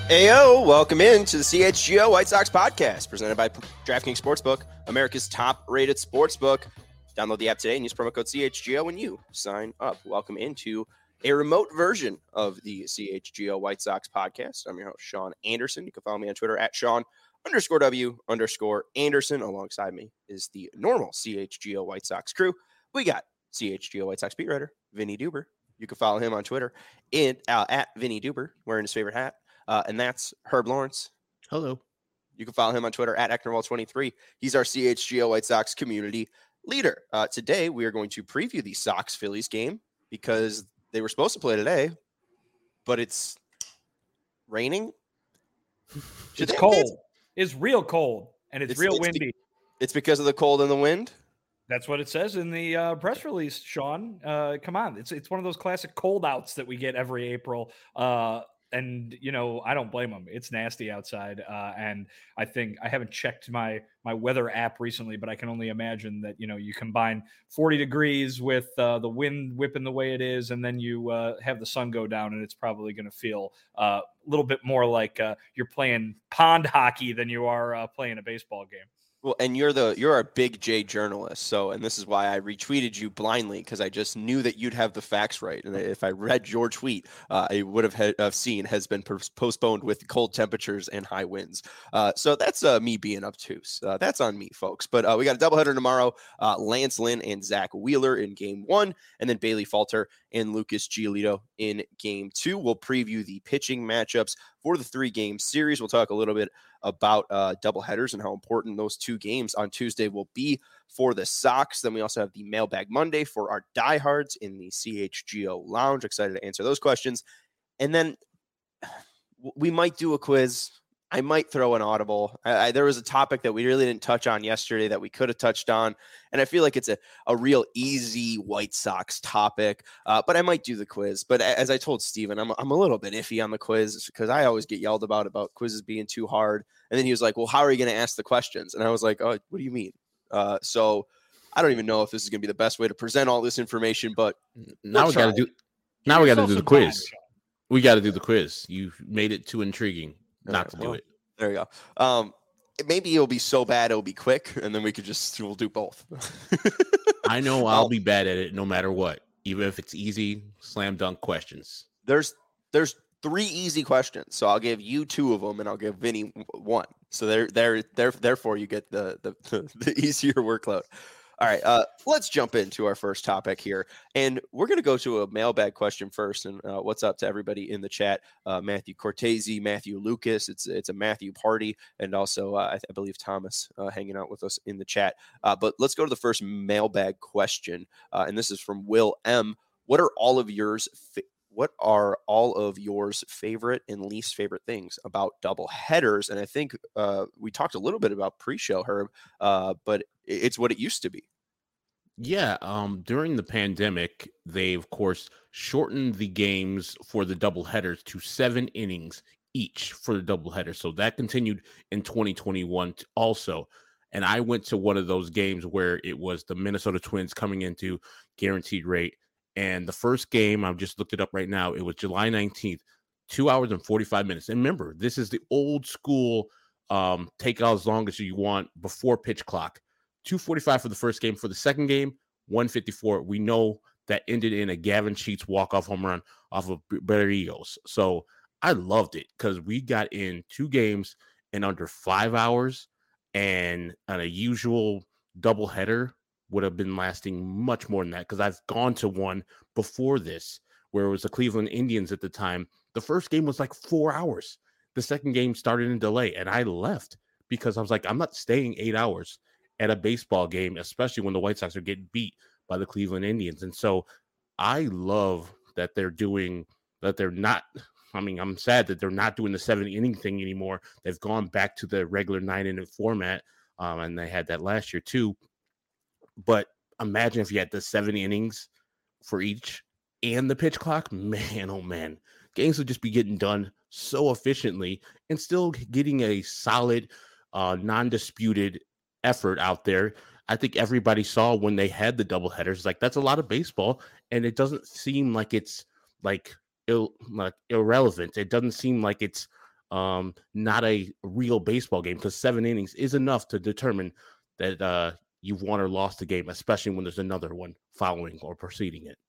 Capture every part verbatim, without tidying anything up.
Ayo, welcome in to the C H G O White Sox podcast presented by DraftKings Sportsbook, America's top-rated sportsbook. Download the app today and use promo code C H G O when you sign up. Welcome into a remote version of the C H G O White Sox podcast. I'm your host, Sean Anderson. You can follow me on Twitter at Sean underscore W underscore Anderson. Alongside me is the normal C H G O White Sox crew. We got C H G O White Sox beat writer, Vinny Duber. You can follow him on Twitter in, uh, at Vinny Duber, wearing his favorite hat. Uh, and that's Herb Lawrence. Hello. You can follow him on Twitter at Ecknerwall twenty-three. He's our C H G O White Sox community leader. Uh, today, we are going to preview the Sox-Phillies game because they were supposed to play today, but it's raining. It's cold. It's real cold, and it's, it's real it's windy. Be- it's because of the cold and the wind? That's what it says in the uh, press release, Sean. Uh, come on. It's, it's one of those classic cold outs that we get every April. Uh And, you know, I don't blame them. It's nasty outside. Uh, and I think I haven't checked my my weather app recently, but I can only imagine that, you know, you combine forty degrees with uh, the wind whipping the way it is, and then you uh, have the sun go down, and it's probably going to feel uh, a little bit more like uh, you're playing pond hockey than you are uh, playing a baseball game. Well, and you're the you're a big J journalist, so and this is why I retweeted you blindly because I just knew that you'd have the facts right, and if I read your tweet, uh, I would have, ha- have seen has been pers- postponed with cold temperatures and high winds. Uh, so that's uh, me being obtuse. Uh, that's on me, folks. But uh, we got a doubleheader tomorrow: uh, Lance Lynn and Zach Wheeler in Game One, and then Bailey Falter and Lucas Giolito in Game Two. We'll preview the pitching matchups for the three-game series. We'll talk a little bit about uh, doubleheaders and how important those two games on Tuesday will be for the Sox. Then we also have the Mailbag Monday for our diehards in the C H G O Lounge. Excited to answer those questions. And then we might do a quiz. I might throw an audible. I, I, there was a topic that we really didn't touch on yesterday that we could have touched on, and I feel like it's a, a real easy White Sox topic, uh, but I might do the quiz. But as I told Steven, I'm, I'm a little bit iffy on the quiz because I always get yelled about about quizzes being too hard. And then he was like, well, how are you going to ask the questions? And I was like, oh, what do you mean? Uh, so I don't even know if this is going to be the best way to present all this information, but now we got to do now we got to do the quiz. We got to do the quiz. You made it too intriguing not right, to well, do it. There you go. Um, maybe it'll be so bad it'll be quick, and then we could just we'll do both. I know I'll um, be bad at it no matter what, even if it's easy slam dunk questions. There's there's three easy questions, so I'll give you two of them, and I'll give Vinny one. So there there there therefore you get the the the, the easier workload. All right, uh, let's jump into our first topic here. And we're going to go to a mailbag question first. And uh, what's up to everybody in the chat? Uh, Matthew Cortese, Matthew Lucas. It's it's a Matthew party. And also, uh, I, th- I believe Thomas uh, hanging out with us in the chat. Uh, but let's go to the first mailbag question. Uh, and this is from Will M. What are all of yours? Fi- What are all of yours favorite and least favorite things about double headers? And I think uh, we talked a little bit about pre-show, Herb, uh, but it's what it used to be. Yeah. Um, during the pandemic, they, of course, shortened the games for the double headers to seven innings each for the double header. So that continued in twenty twenty-one also. And I went to one of those games where it was the Minnesota Twins coming into guaranteed rate. And the first game, I've just looked it up right now, it was July nineteenth, two hours and forty-five minutes. And remember, this is the old school um, take out as long as you want before pitch clock. two forty-five for the first game. For the second game, one fifty-four. We know that ended in a Gavin Sheets walk-off home run off of Berrios. So I loved it because we got in two games in under five hours, and on a usual doubleheader would have been lasting much more than that because I've gone to one before this where it was the Cleveland Indians at the time. The first game was like four hours. The second game started in delay, and I left because I was like, I'm not staying eight hours at a baseball game, especially when the White Sox are getting beat by the Cleveland Indians. And so I love that they're doing that. They're not, I mean, I'm sad that they're not doing the seven inning thing anymore. They've gone back to the regular nine inning format. Um, and they had that last year too. But imagine if you had the seven innings for each and the pitch clock, man, oh man, games would just be getting done so efficiently and still getting a solid, uh, non-disputed effort out there. I think everybody saw when they had the double headers, like that's a lot of baseball, and it doesn't seem like it's like, Ill, like irrelevant. It doesn't seem like it's um, not a real baseball game, because seven innings is enough to determine that uh, you've won or lost the game, especially when there's another one following or preceding it.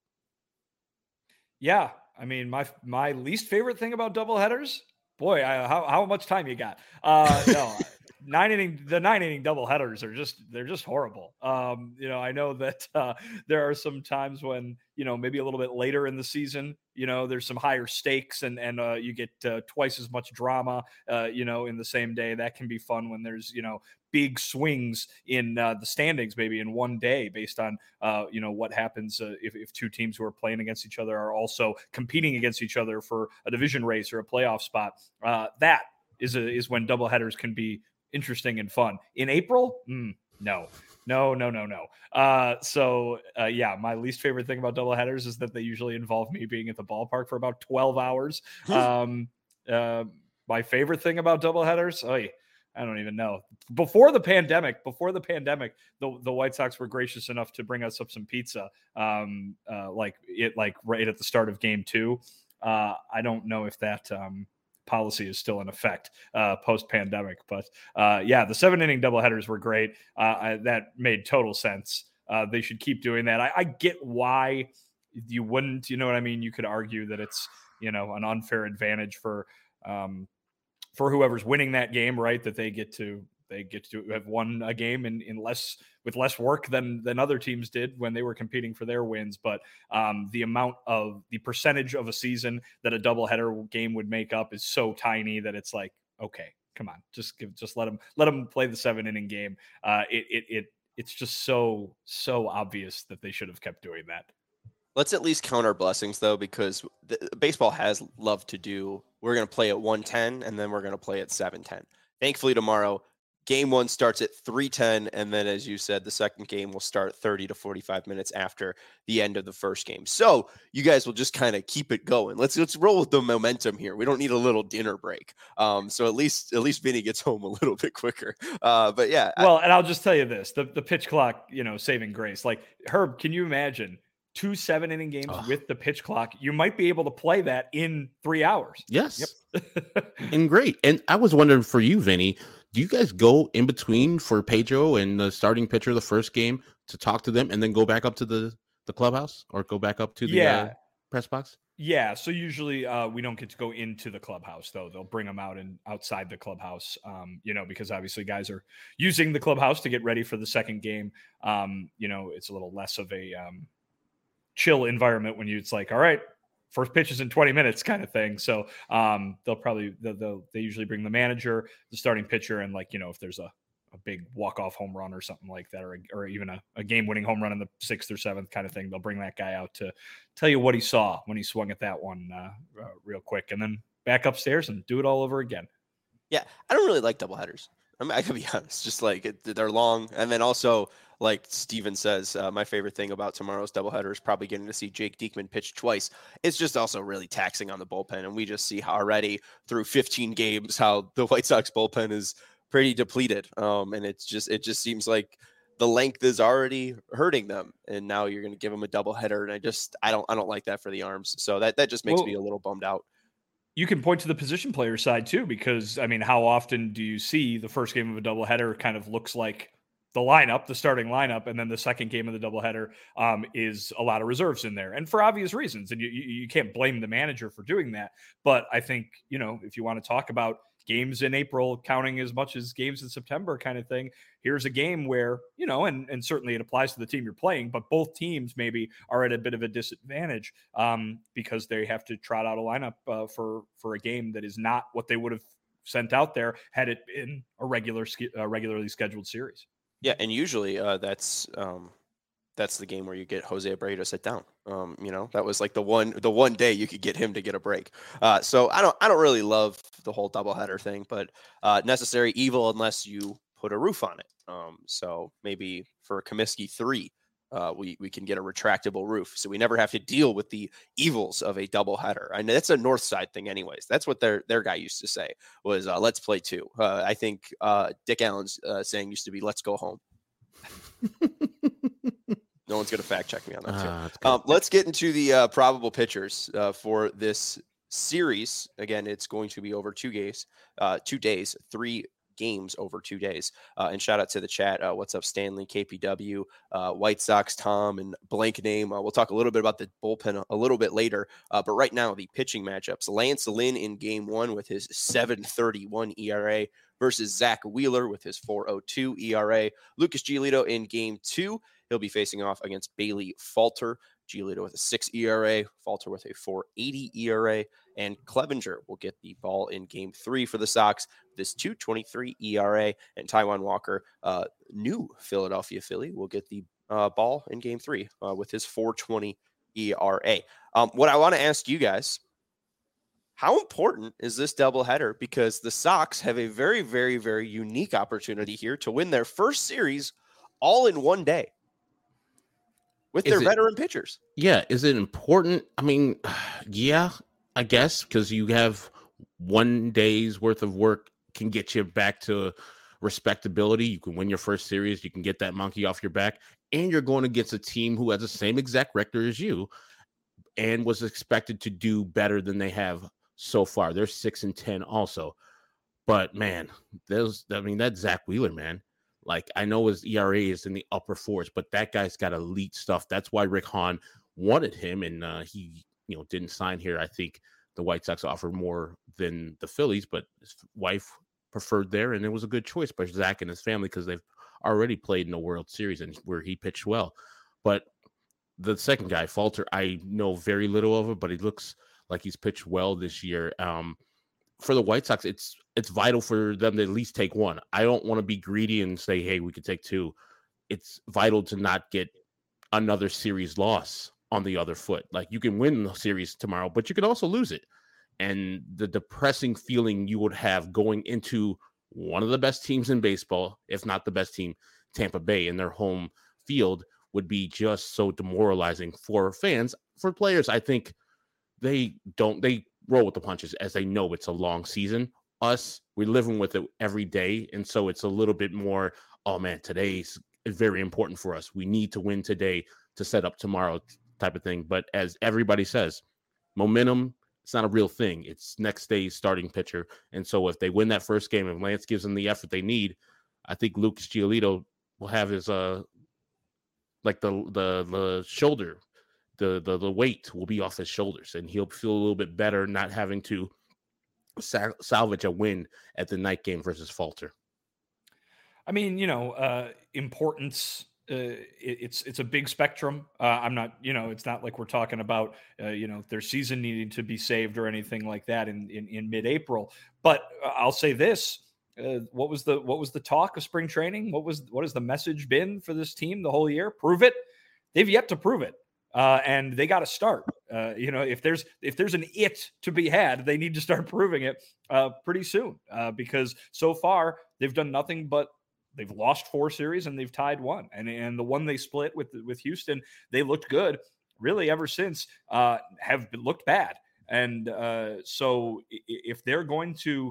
Yeah, I mean, my my least favorite thing about doubleheaders, boy, I, how how much time you got? Uh, no, nine inning the nine inning doubleheaders are just they're just horrible. Um, you know, I know that uh, there are some times when you know maybe a little bit later in the season, you know, there's some higher stakes and and uh, you get uh, twice as much drama, uh, you know, in the same day. That can be fun when there's you know big swings in uh, the standings maybe in one day based on uh, you know what happens uh, if, if two teams who are playing against each other are also competing against each other for a division race or a playoff spot. Uh, that is a, is when doubleheaders can be interesting and fun. In April, mm, no. No, no, no, no. Uh, so, uh, yeah, my least favorite thing about doubleheaders is that they usually involve me being at the ballpark for about twelve hours. um, uh, my favorite thing about doubleheaders, oh, I don't even know. Before the pandemic, before the pandemic, the, the White Sox were gracious enough to bring us up some pizza, um, uh, like it, like right at the start of game two. Uh, I don't know if that um, policy is still in effect uh, post pandemic, but uh, yeah, the seven inning doubleheaders were great. Uh, I, that made total sense. Uh, they should keep doing that. I, I get why you wouldn't. You know what I mean? You could argue that it's you know an unfair advantage for. Um, for whoever's winning that game, right? That they get to they get to have won a game in, in less with less work than than other teams did when they were competing for their wins. But um, the amount of the percentage of a season that a doubleheader game would make up is so tiny that it's like, okay, come on, just give just let them let them play the seven inning game. Uh, it it it it's just so so obvious that they should have kept doing that. Let's at least count our blessings, though, because the, baseball has loved to do. We're going to play at one ten, and then we're going to play at seven ten. Thankfully, tomorrow, game one starts at three ten, and then, as you said, the second game will start thirty to forty-five minutes after the end of the first game. So you guys will just kind of keep it going. Let's let's roll with the momentum here. We don't need a little dinner break. Um, so at least at least Vinny gets home a little bit quicker. Uh, but yeah. Well, I, and I'll just tell you this: the the pitch clock, you know, saving grace. Like Herb, can you imagine? Two seven inning games oh. with the pitch clock, you might be able to play that in three hours. Yes. Yep. And great. And I was wondering for you, Vinny, do you guys go in between for Pedro and the starting pitcher of the first game to talk to them and then go back up to the, the clubhouse or go back up to the yeah. uh, press box? Yeah. So usually uh, we don't get to go into the clubhouse, though. They'll bring them out and outside the clubhouse, um, you know, because obviously guys are using the clubhouse to get ready for the second game. Um, you know, it's a little less of a, um, chill environment when you it's like, all right, first pitch is in twenty minutes kind of thing. So um, they'll probably they'll, they'll, they usually bring the manager, the starting pitcher, and like you know if there's a, a big walk-off home run or something like that, or a, or even a, a game-winning home run in the sixth or seventh kind of thing, they'll bring that guy out to tell you what he saw when he swung at that one uh, uh, real quick, and then back upstairs and do it all over again. Yeah, I don't really like doubleheaders. I mean, I can be honest, just like it, they're long, and then also. Like Steven says, uh, my favorite thing about tomorrow's doubleheader is probably getting to see Jake Diekman pitch twice. It's just also really taxing on the bullpen. And we just see how already through fifteen games how the White Sox bullpen is pretty depleted. Um, and it's just it just seems like the length is already hurting them. And now you're going to give them a doubleheader. And I just I don't I don't like that for the arms. So that, that just makes well, me a little bummed out. You can point to the position player side, too, because, I mean, how often do you see the first game of a doubleheader kind of looks like the lineup, the starting lineup, and then the second game of the doubleheader um, is a lot of reserves in there, and for obvious reasons. And you, you you can't blame the manager for doing that. But I think you know if you want to talk about games in April counting as much as games in September, kind of thing, here's a game where you know, and and certainly it applies to the team you're playing, but both teams maybe are at a bit of a disadvantage um, because they have to trot out a lineup uh, for for a game that is not what they would have sent out there had it been a regular uh, regularly scheduled series. Yeah, and usually uh, that's um, that's the game where you get Jose Abreu to sit down. Um, you know, that was like the one the one day you could get him to get a break. Uh, so I don't I don't really love the whole doubleheader thing, but uh, necessary evil unless you put a roof on it. Um, so maybe for Comiskey three, uh, we we can get a retractable roof, so we never have to deal with the evils of a doubleheader. I know that's a North Side thing, anyways. That's what their their guy used to say was uh, "Let's play two." Uh, I think uh, Dick Allen's uh, saying used to be "Let's go home." No one's gonna fact check me on that. Uh, um, let's get into the uh, probable pitchers uh, for this series, again, it's going to be over two days, uh, two days, three games over two days. Uh, and shout out to the chat. Uh, what's up, Stanley, K P W, uh, White Sox, Tom, and blank name. Uh, we'll talk a little bit about the bullpen a, a little bit later. Uh, but right now, the pitching matchups. Lance Lynn in game one with his seven thirty-one E R A versus Zach Wheeler with his four oh two E R A. Lucas Giolito in game two. He'll be facing off against Bailey Falter. Giolito with a six E R A, Falter with a four eighty E R A, and Clevenger will get the ball in game three for the Sox. This two twenty-three E R A, and Taijuan Walker, uh, new Philadelphia Philly, will get the uh, ball in game three uh, with his four twenty E R A. Um, what I want to ask you guys, how important is this doubleheader? Because the Sox have a very, very, very unique opportunity here to win their first series all in one day with Is their it- veteran pitchers. Yeah, is it important? I mean, yeah, I guess, because you have one day's worth of work can get you back to respectability. You can win your first series. You can get that monkey off your back. And you're going against a team who has the same exact record as you and was expected to do better than they have so far. They're six and ten also. But, man, those, I mean, that's Zach Wheeler, man. Like, I know his E R A is in the upper fours, but that guy's got elite stuff. That's why Rick Hahn wanted him, and uh, he, you know, didn't sign here. I think the White Sox offered more than the Phillies, but his wife preferred there, and it was a good choice by Zach and his family because they've already played in the World Series and where he pitched well. But the second guy, Falter, I know very little of it, but he looks like he's pitched well this year. Um, for the White Sox, it's it's vital for them to at least take one. I don't want to be greedy and say, hey, we could take two. It's vital to not get another series loss on the other foot. Like, you can win the series tomorrow, but you could also lose it. And the depressing feeling you would have going into one of the best teams in baseball, if not the best team, Tampa Bay, in their home field, would be just so demoralizing for fans. For players, I think they don't, they roll with the punches as they know it's a long season. Us, we're living with it every day. And so it's a little bit more, oh man, today's very important for us. We need to win today to set up tomorrow type of thing. But as everybody says, momentum, it's not a real thing. It's next day's starting pitcher. And so if they win that first game and Lance gives them the effort they need, I think Lucas Giolito will have his, uh, like the, the, the shoulder, the, the, the weight will be off his shoulders, and he'll feel a little bit better not having to sal- salvage a win at the night game versus Falter. I mean, you know, uh, importance, uh, it, it's it's a big spectrum. Uh, I'm not, you know, it's not like we're talking about, uh, you know, their season needing to be saved or anything like that in in, in mid-April. But uh, I'll say this: uh, what was the what was the talk of spring training? What was what has the message been for this team the whole year? Prove it. They've yet to prove it. Uh, and they got to start. Uh, you know, if there's if there's an it to be had, they need to start proving it uh, pretty soon. Uh, because so far they've done nothing but they've lost four series and they've tied one. And and the one they split with with Houston, they looked good really ever since. Uh, have looked bad. And uh, so if they're going to,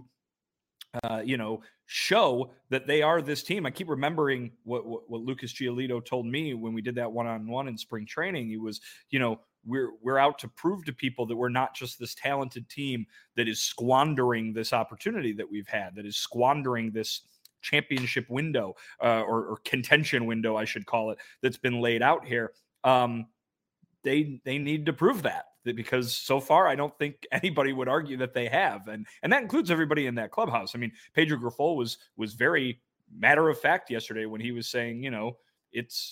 uh, you know, show that they are this team. I keep remembering what, what, what Lucas Giolito told me when we did that one-on-one in spring training. He was, you know, we're, we're out to prove to people that we're not just this talented team that is squandering this opportunity that we've had, that is squandering this championship window uh, or, or contention window, I should call it, that's been laid out here. Um, they, they need to prove that. Because so far, I don't think anybody would argue that they have, and and that includes everybody in that clubhouse. I mean, Pedro Grifol was was very matter of fact yesterday when he was saying, you know, it's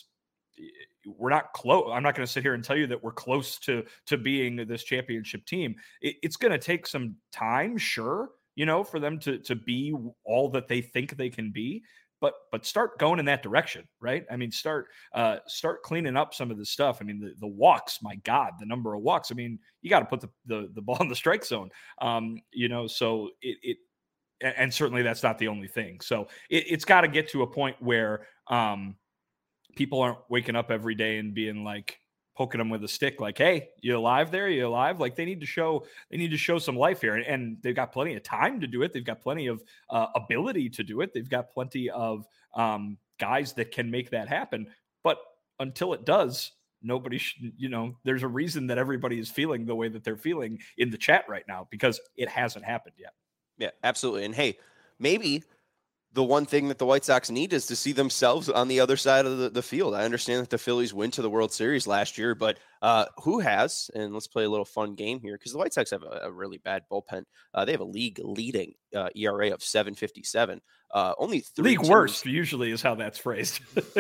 we're not close. I'm not going to sit here and tell you that we're close to to being this championship team. It, it's going to take some time, sure, you know, for them to to be all that they think they can be. But but start going in that direction, right? I mean, start uh, start cleaning up some of the stuff. I mean, the, the walks, my God, the number of walks. I mean, you got to put the, the the ball in the strike zone, um, you know. So it it and certainly that's not the only thing. So it, it's got to get to a point where um, people aren't waking up every day and being like poking them with a stick, like, "Hey, you alive there? You alive?" Like they need to show they need to show some life here, and, and they've got plenty of time to do it. They've got plenty of uh, ability to do it. They've got plenty of um, guys that can make that happen. But until it does, nobody should, you know, there's a reason that everybody is feeling the way that they're feeling in the chat right now because it hasn't happened yet. Yeah, absolutely. And hey, maybe the one thing that the White Sox need is to see themselves on the other side of the, the field. I understand that the Phillies went to the World Series last year, but uh, who has, and let's play a little fun game here because the White Sox have a, a really bad bullpen. Uh, they have a league leading uh, E R A of seven fifty-seven. Uh, only three league teams. Worst usually is how that's phrased.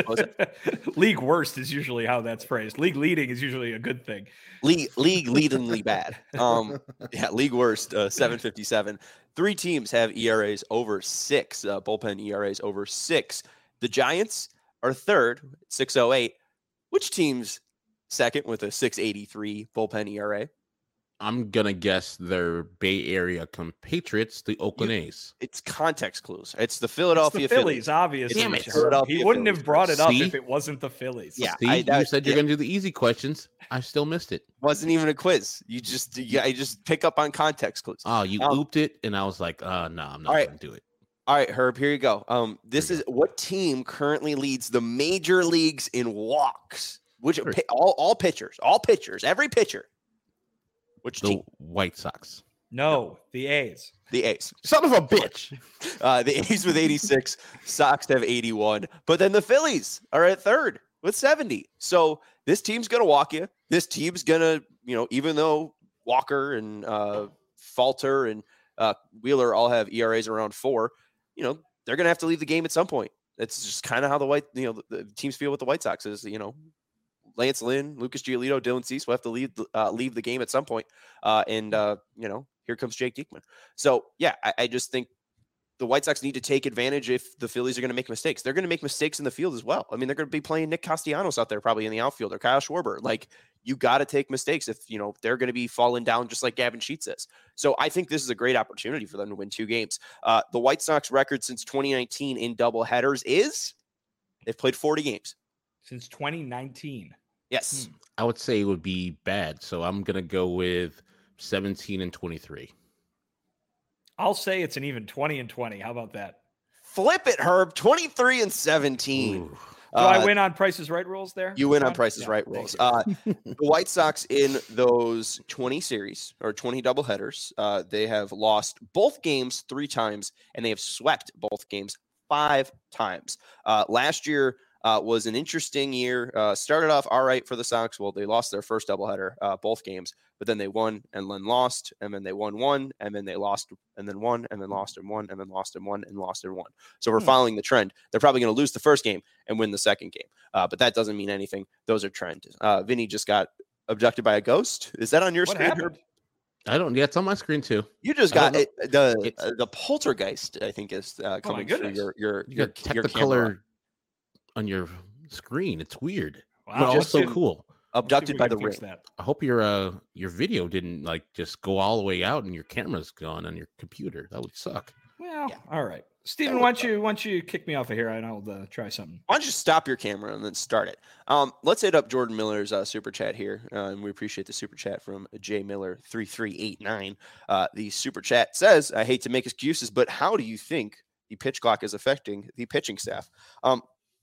League worst is usually how that's phrased. League leading is usually a good thing. League league leadingly bad. Um, yeah, league worst uh, seven fifty-seven. Three teams have E R As over six. Uh, bullpen E R As over six. The Giants are third, six oh eight. Which team's second with a six eighty-three bullpen E R A? I'm gonna guess they're Bay Area compatriots, the Oakland You- A's. It's context clues. It's the It's Philadelphia the Phillies, obviously. Damn it. He wouldn't have brought it up See? if it wasn't the Phillies. Yeah, See, I- you that- said you're yeah. gonna do the easy questions. I still missed it. Wasn't even a quiz. You just you, I just pick up on context clues. Oh, you Um, ooped it, and I was like, uh, no, I'm not all right. gonna do it. All right, Herb, here you go. Um, this Here is what team currently leads the major leagues in walks? Which Sure. pi- all all pitchers, all pitchers, every pitcher. Which The team? White Sox. No, the A's. The A's. Son of a bitch. Uh, the A's with eighty-six, Sox have eighty-one, but then the Phillies are at third with seventy. So this team's gonna walk you. This team's gonna, you know, even though Walker and uh, Falter and uh, Wheeler all have E R As around four, you know, they're gonna have to leave the game at some point. That's just kind of how the white, you know, the, the teams feel with the White Sox is, you know, Lance Lynn, Lucas Giolito, Dylan Cease will have to leave uh, leave the game at some point. Uh, and uh, you know, here comes Jake Diekman. So yeah, I, I just think the White Sox need to take advantage if the Phillies are going to make mistakes. They're going to make mistakes in the field as well. I mean, they're going to be playing Nick Castellanos out there probably in the outfield or Kyle Schwarber. Like, you got to take mistakes if, you know, they're going to be falling down just like Gavin Sheets is. So I think this is a great opportunity for them to win two games. Uh, the White Sox record since twenty nineteen in double headers is they've played forty games. Since twenty nineteen. Yes. Hmm. I would say it would be bad, so I'm gonna go with seventeen and twenty-three. I'll say it's an even twenty and twenty. How about that? Flip it, Herb. twenty-three and seventeen. Ooh. Do I Uh, win on Price's Right rules there? You win on Sean? Price's Yeah, Right thank rules. you. Uh, the White Sox in those twenty series or twenty doubleheaders, uh, they have lost both games three times, and they have swept both games five times. Uh, last year uh, was an interesting year. Uh, started off all right for the Sox. Well, they lost their first doubleheader, uh, both games, but then they won and then lost, and then they won one, and then they lost, and then won, and then lost and won, and then lost and won, and lost and won. So we're Hmm. following the trend. They're probably going to lose the first game and win the second game. Uh, but that doesn't mean anything. Those are trends. Uh, Vinny just got abducted by a ghost. Is that on your What screen? happened? Herb? I don't. Yeah, it's on my screen too. You just I don't got it. The It's- uh, the poltergeist, I think, is uh, coming through goodness. your your You your, got your technicolor camera. on your screen. It's weird, Wow. but just also didn't- cool. Abducted by the ring. ring. I hope your uh your video didn't like just go all the way out and your camera's gone on your computer. That would suck. Well, Yeah. all right. Steven, why don't you why don't you kick me off of here and I'll uh, try something. Why don't you stop your camera and then start it? Um, let's hit up Jordan Miller's uh, super chat here, uh, and we appreciate the super chat from J Miller three three eight nine. Uh, the super chat says, "I hate to make excuses, but how do you think the pitch clock is affecting the pitching staff?" Um,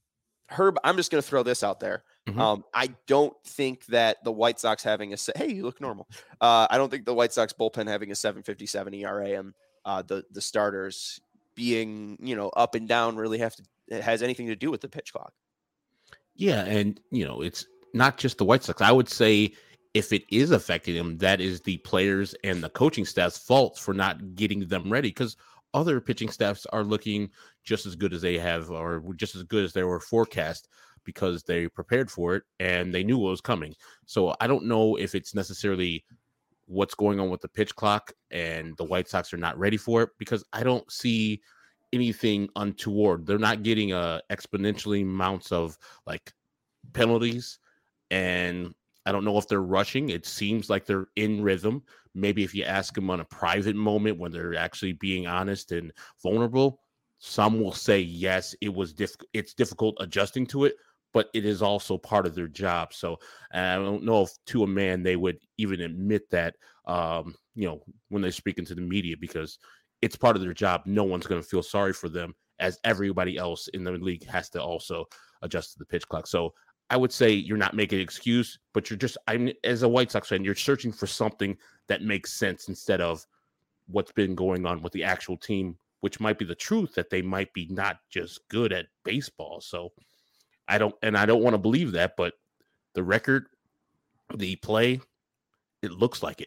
Herb, I'm just going to throw this out there. Mhm. Um, I don't think that the White Sox having a se- hey, you look normal. Uh, I don't think the White Sox bullpen having a seven fifty-seven E R A and uh, the the starters being, you know, up and down really have to it has anything to do with the pitch clock. Yeah, and you know, it's not just the White Sox. I would say if it is affecting them, that is the players and the coaching staff's fault for not getting them ready, because other pitching staffs are looking just as good as they have, or just as good as they were forecast, because they prepared for it and they knew what was coming. So I don't know if it's necessarily what's going on with the pitch clock and the White Sox are not ready for it, because I don't see anything untoward. They're not getting uh exponentially amounts of like penalties, and I don't know if they're rushing. It seems like they're in rhythm. Maybe if you ask them on a private moment when they're actually being honest and vulnerable, some will say yes, it was diff- it's difficult adjusting to it, but it is also part of their job. So I don't know if to a man they would even admit that, um, you know, when they're speaking to the media, because it's part of their job. No one's going to feel sorry for them, as everybody else in the league has to also adjust to the pitch clock. So I would say you're not making an excuse, but you're just, I'm as a White Sox fan, you're searching for something that makes sense instead of what's been going on with the actual team, which might be the truth that they might be not just good at baseball. So I don't, and I don't want to believe that, but the record, the play, it looks like it.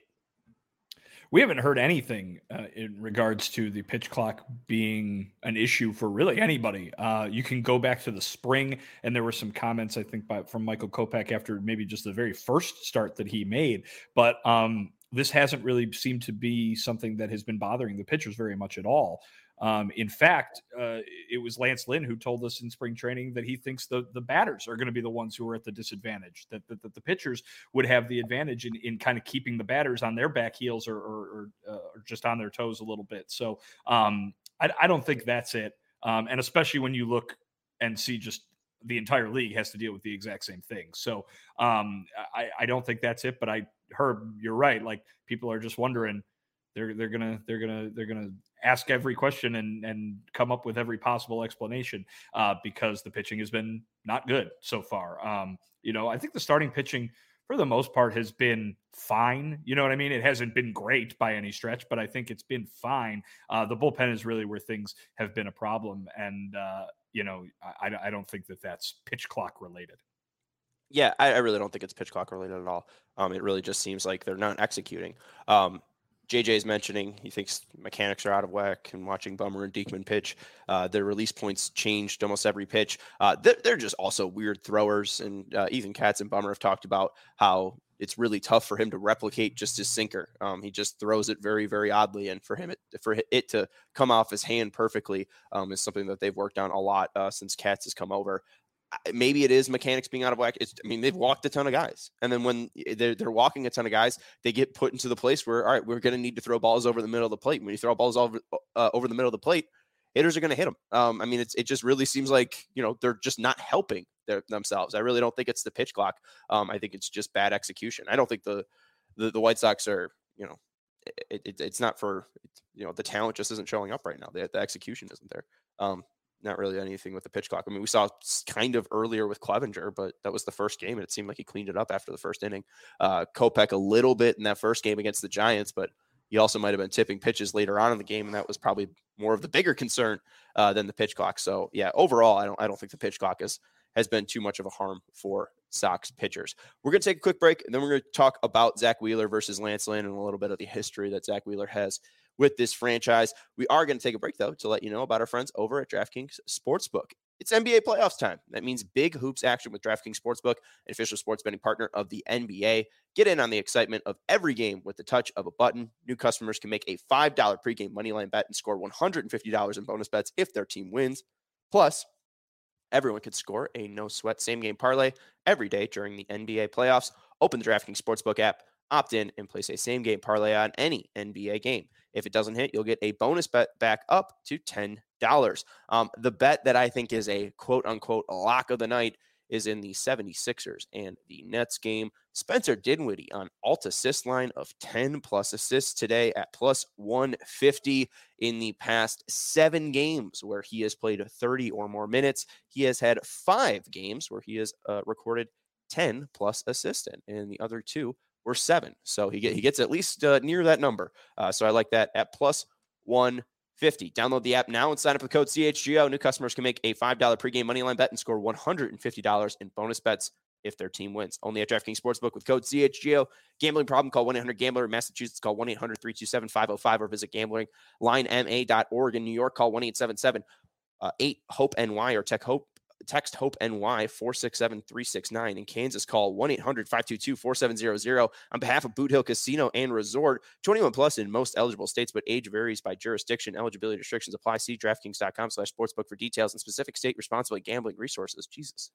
We haven't heard anything uh, in regards to the pitch clock being an issue for really anybody. Uh, you can go back to the spring, and there were some comments, I think, by, from Michael Kopech after maybe just the very first start that he made. But um, this hasn't really seemed to be something that has been bothering the pitchers very much at all. Um, in fact, uh, it was Lance Lynn who told us in spring training that he thinks the, the batters are going to be the ones who are at the disadvantage, that, that, that the pitchers would have the advantage in, in kind of keeping the batters on their back heels or, or, or, uh, or just on their toes a little bit. So um, I, I don't think that's it. Um, and especially when you look and see just the entire league has to deal with the exact same thing. So um, I, I don't think that's it, but I heard you're right. Like people are just wondering, they're, they're gonna, they're gonna, they're gonna, ask every question and, and come up with every possible explanation uh, because the pitching has been not good so far. Um, you know, I think the starting pitching for the most part has been fine. You know what I mean? It hasn't been great by any stretch, but I think it's been fine. Uh, the bullpen is really where things have been a problem. And, uh, you know, I, I don't think that that's pitch clock related. Yeah, I, I really don't think it's pitch clock related at all. Um, it really just seems like they're not executing. Um, J J is mentioning he thinks mechanics are out of whack, and watching Bummer and Diekman pitch, uh, their release points changed almost every pitch. Uh, they're, they're just also weird throwers, and uh, even Katz and Bummer have talked about how it's really tough for him to replicate just his sinker. Um, he just throws it very, very oddly, and for him, it, for it to come off his hand perfectly um, is something that they've worked on a lot uh, since Katz has come over. Maybe it is mechanics being out of whack. It's, I mean, they've walked a ton of guys. And then when they're, they're walking a ton of guys, they get put into the place where, all right, we're going to need to throw balls over the middle of the plate. When you throw balls over, uh, over the middle of the plate, hitters are going to hit them. Um, I mean, it's, it just really seems like, you know, they're just not helping their, themselves. I really don't think it's the pitch clock. Um, I think it's just bad execution. I don't think the, the, the White Sox are, you know, it, it, it's not for, you know, the talent just isn't showing up right now. The, the execution isn't there. Um, Not really anything with the pitch clock. I mean, we saw kind of earlier with Clevenger, but that was the first game, and it seemed like he cleaned it up after the first inning. Uh, Kopech a little bit in that first game against the Giants, but he also might have been tipping pitches later on in the game, and that was probably more of the bigger concern uh, than the pitch clock. So, yeah, overall, I don't, I don't think the pitch clock is, has been too much of a harm for Sox pitchers. We're going to take a quick break, and then we're going to talk about Zack Wheeler versus Lance Lynn and a little bit of the history that Zack Wheeler has with this franchise. We are going to take a break, though, to let you know about our friends over at DraftKings Sportsbook. It's N B A playoffs time. That means big hoops action with DraftKings Sportsbook, an official sports betting partner of the N B A. Get in on the excitement of every game with the touch of a button. New customers can make a five dollars pregame moneyline bet and score one hundred fifty dollars in bonus bets if their team wins. Plus, everyone can score a no-sweat same-game parlay every day during the N B A playoffs. Open the DraftKings Sportsbook app, opt in, and place a same-game parlay on any N B A game. If it doesn't hit, you'll get a bonus bet back up to ten dollars. Um, the bet that I think is a quote-unquote lock of the night is in the seventy-sixers and the Nets game. Spencer Dinwiddie on alt-assist line of ten-plus assists today at plus one fifty in the past seven games where he has played thirty or more minutes. He has had five games where he has uh, recorded ten-plus assists in, and the other two were seven. So he, get, he gets at least uh, near that number. Uh, so I like that at plus one fifty. Download the app now and sign up with code C H G O. New customers can make a five dollars pregame moneyline bet and score one hundred fifty dollars in bonus bets if their team wins. Only at DraftKings Sportsbook with code C H G O. Gambling problem? Call one eight hundred gambler. In Massachusetts, call one eight hundred three two seven five oh five or visit gambling line m a dot org. In New York, call one eight seven seven eight hope N Y or tech hope. Text HOPE N Y four six seven three six nine. In Kansas, call one eight hundred five two two four seven zero zero. On behalf of Boot Hill Casino and Resort, twenty-one plus in most eligible states, but age varies by jurisdiction. Eligibility restrictions apply. See DraftKings.com slash sportsbook for details and specific state responsible gambling resources. Jesus.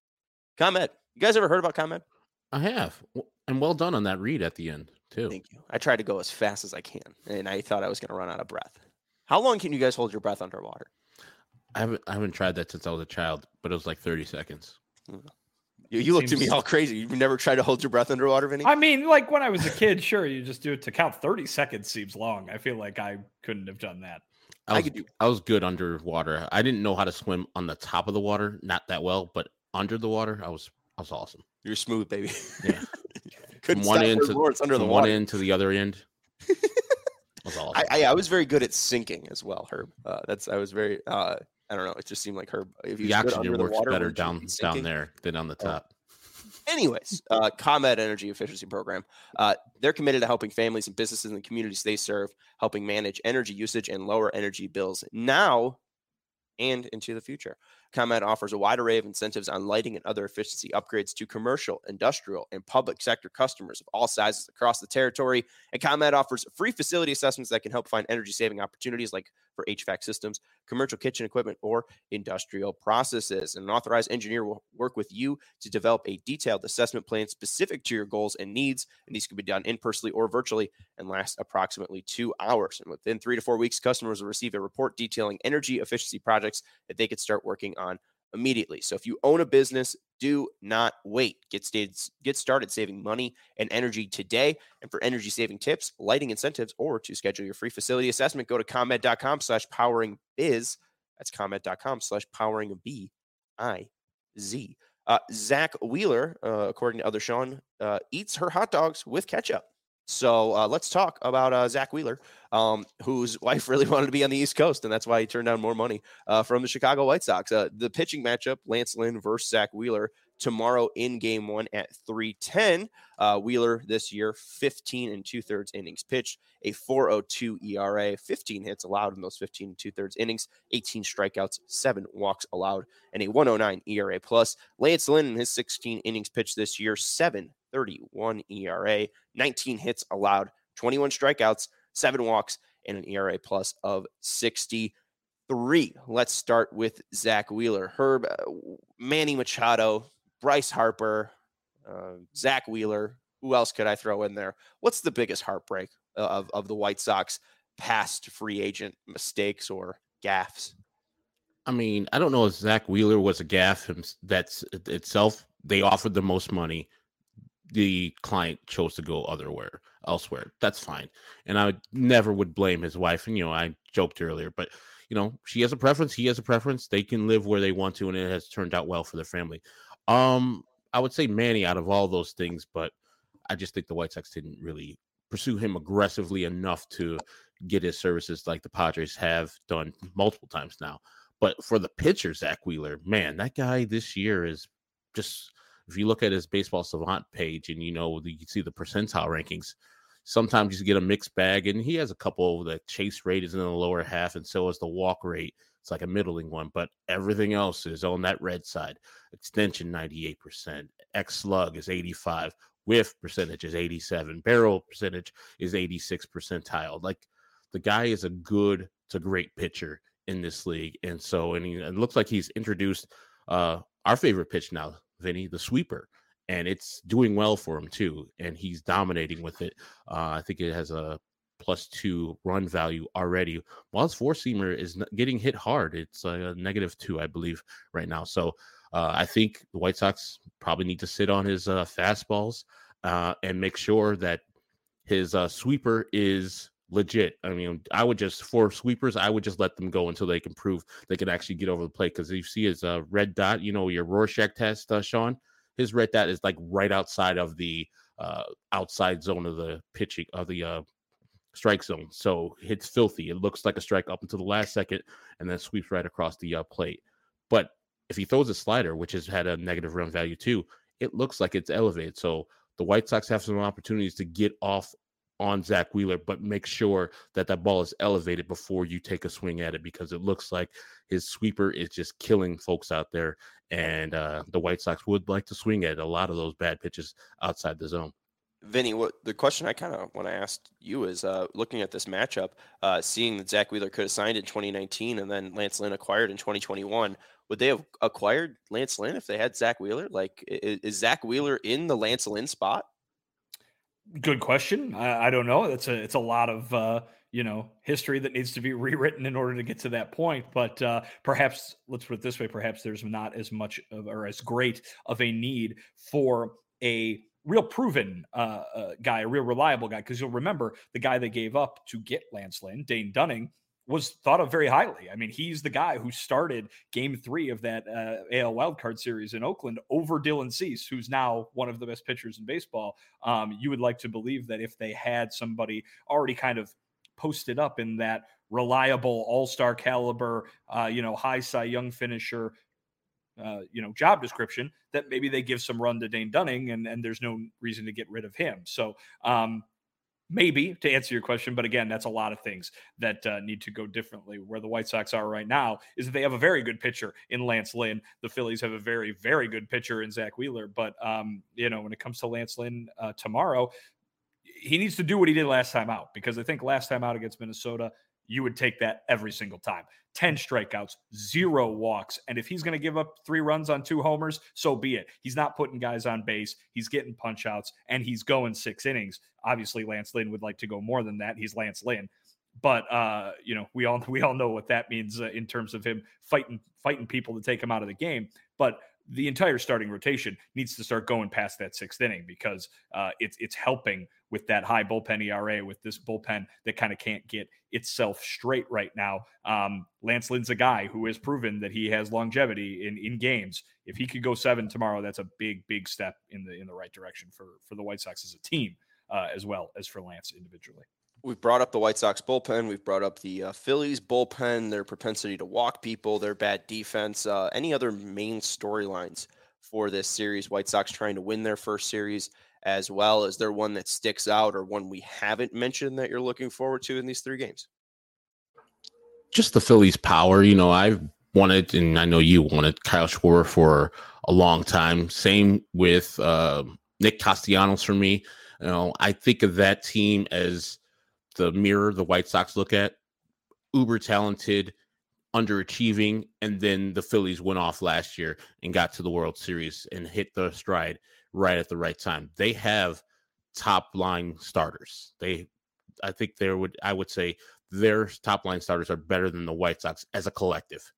ComEd. You guys ever heard about ComEd? I have. And well done on that read at the end, too. Thank you. I try to go as fast as I can, and I thought I was going to run out of breath. How long can you guys hold your breath underwater? I haven't I haven't tried that since I was a child, but it was like thirty seconds. You, you looked at me all crazy. You've never tried to hold your breath underwater, Vinny? I mean, like when I was a kid, sure, you just do it to count. thirty seconds seems long. I feel like I couldn't have done that. I was, I could do. I was good underwater. I didn't know how to swim on the top of the water, not that well, but under the water, I was was awesome. You're smooth, baby. Yeah. Couldn't From one stop end Herb to Lawrence under from the one water. end to the other end. Was awesome. I, I I was very good at sinking as well, Herb. Uh, that's I was very. Uh, I don't know. It just seemed like Herb. If he The was good oxygen under the works water, better wouldn't you down be down sinking? there than on the Oh. top. Anyways, uh, ComEd Energy Efficiency Program. Uh, they're committed to helping families and businesses in the communities they serve, helping manage energy usage and lower energy bills now and into the future. ComEd offers a wide array of incentives on lighting and other efficiency upgrades to commercial, industrial, and public sector customers of all sizes across the territory. And ComEd offers free facility assessments that can help find energy saving opportunities like for H V A C systems, commercial kitchen equipment, or industrial processes. And an authorized engineer will work with you to develop a detailed assessment plan specific to your goals and needs. And these can be done in personally or virtually and last approximately two hours. And within three to four weeks, customers will receive a report detailing energy efficiency projects that they could start working on immediately. So if you own a business, do not wait. Get started, get started saving money and energy today. And for energy saving tips, lighting incentives, or to schedule your free facility assessment, go to ComEd.com slash powering biz. That's ComEd.com slash powering B I Z. Uh, Zach Wheeler, uh, according to Other Sean, uh, eats her hot dogs with ketchup. So uh, let's talk about uh, Zach Wheeler, um, whose wife really wanted to be on the East Coast, and that's why he turned down more money uh, from the Chicago White Sox. Uh, the pitching matchup, Lance Lynn versus Zach Wheeler, tomorrow in game one at three ten. Uh, Wheeler this year, fifteen and two-thirds innings pitched, a four point oh two E R A, fifteen hits allowed in those fifteen and two-thirds innings, eighteen strikeouts, seven walks allowed, and a one oh nine E R A plus. Lance Lynn in his sixteen innings pitched this year, seven thirty-one E R A, nineteen hits allowed, twenty-one strikeouts, seven walks, and an E R A plus of sixty-three. Let's start with Zach Wheeler. Herb, uh, Manny Machado, Bryce Harper, uh, Zach Wheeler. Who else could I throw in there? What's the biggest heartbreak of, of the White Sox past free agent mistakes or gaffes? I mean, I don't know if Zach Wheeler was a gaffe that's itself. They offered the most money. The client chose to go otherwhere, elsewhere. That's fine. And I never would blame his wife. And, you know, I joked earlier, but, you know, she has a preference. He has a preference. They can live where they want to, and it has turned out well for their family. Um, I would say Manny out of all those things, but I just think the White Sox didn't really pursue him aggressively enough to get his services like the Padres have done multiple times now. But for the pitcher, Zach Wheeler, man, that guy this year is just... If you look at his Baseball Savant page and, you know, you can see the percentile rankings, sometimes you get a mixed bag. And he has a couple. The chase rate is in the lower half, and so is the walk rate. It's like a middling one. But everything else is on that red side. Extension, ninety-eight percent. X-slug is eighty-five. Whiff percentage is eighty-seven. Barrel percentage is eighty-six percentile. Like, the guy is a good to great pitcher in this league. And so, and he, it looks like he's introduced uh, our favorite pitch now, Vinny, the sweeper, and it's doing well for him too, and he's dominating with it. uh, I think it has a plus two run value already, while his four-seamer is getting hit hard. It's a negative two, I believe, right now. So uh, I think the White Sox probably need to sit on his uh, fastballs uh, and make sure that his uh, sweeper is legit. I mean, I would just, for sweepers, I would just let them go until they can prove they can actually get over the plate. Because you see his uh, red dot, you know, your Rorschach test, uh, Sean, his red dot is like right outside of the uh, outside zone of the pitching, of the uh, strike zone. So it's filthy. It looks like a strike up until the last second and then sweeps right across the uh, plate. But if he throws a slider, which has had a negative run value too, it looks like it's elevated. So the White Sox have some opportunities to get off on Zach Wheeler, but make sure that that ball is elevated before you take a swing at it, because it looks like his sweeper is just killing folks out there. And uh, the White Sox would like to swing at a lot of those bad pitches outside the zone. Vinny, what the question I kind of want to ask you is, uh, looking at this matchup, uh, seeing that Zach Wheeler could have signed in twenty nineteen and then Lance Lynn acquired in twenty twenty-one, would they have acquired Lance Lynn if they had Zach Wheeler? Like, is, is Zach Wheeler in the Lance Lynn spot? Good question. I, I don't know. That's a it's a lot of uh, you know history that needs to be rewritten in order to get to that point. But uh, perhaps let's put it this way: perhaps there's not as much of, or as great of a need for a real proven uh, uh, guy, a real reliable guy. Because you'll remember the guy they gave up to get Lance Lynn, Dane Dunning, was thought of very highly. I mean, he's the guy who started game three of that uh, A L wildcard series in Oakland over Dylan Cease, who's now one of the best pitchers in baseball. Um, you would like to believe that if they had somebody already kind of posted up in that reliable all-star caliber, uh, you know, high Cy Young finisher, uh, you know, job description, that maybe they give some run to Dane Dunning, and, and there's no reason to get rid of him. So, um, maybe, to answer your question, but again, that's a lot of things that uh, need to go differently. Where the White Sox are right now is that they have a very good pitcher in Lance Lynn. The Phillies have a very, very good pitcher in Zach Wheeler. But, um, you know, when it comes to Lance Lynn uh, tomorrow, he needs to do what he did last time out, because I think last time out against Minnesota, you would take that every single time. ten strikeouts, zero walks. And if he's going to give up three runs on two homers, so be it. He's not putting guys on base. He's getting punch outs, and he's going six innings. Obviously, Lance Lynn would like to go more than that. He's Lance Lynn. But, uh, you know, we all we all know what that means uh, in terms of him fighting fighting people to take him out of the game. But the entire starting rotation needs to start going past that sixth inning, because uh, it's it's helping with that high bullpen E R A, with this bullpen that kind of can't get itself straight right now. Um, Lance Lynn's a guy who has proven that he has longevity in, in games. If he could go seven tomorrow, that's a big, big step in the in the right direction for, for the White Sox as a team, uh, as well as for Lance individually. We've brought up the White Sox bullpen. We've brought up the uh, Phillies bullpen, their propensity to walk people, their bad defense. Uh, any other main storylines for this series? White Sox trying to win their first series as well. Is there one that sticks out, or one we haven't mentioned that you're looking forward to in these three games? Just the Phillies' power. You know, I've wanted, and I know you wanted, Kyle Schwarber for a long time. Same with uh, Nick Castellanos for me. You know, I think of that team as the mirror the White Sox look at. Uber talented, underachieving, and then the Phillies went off last year and got to the World Series and hit the stride right at the right time. They have top line starters. They, I think there would, I would say their top line starters are better than the White Sox as a collective,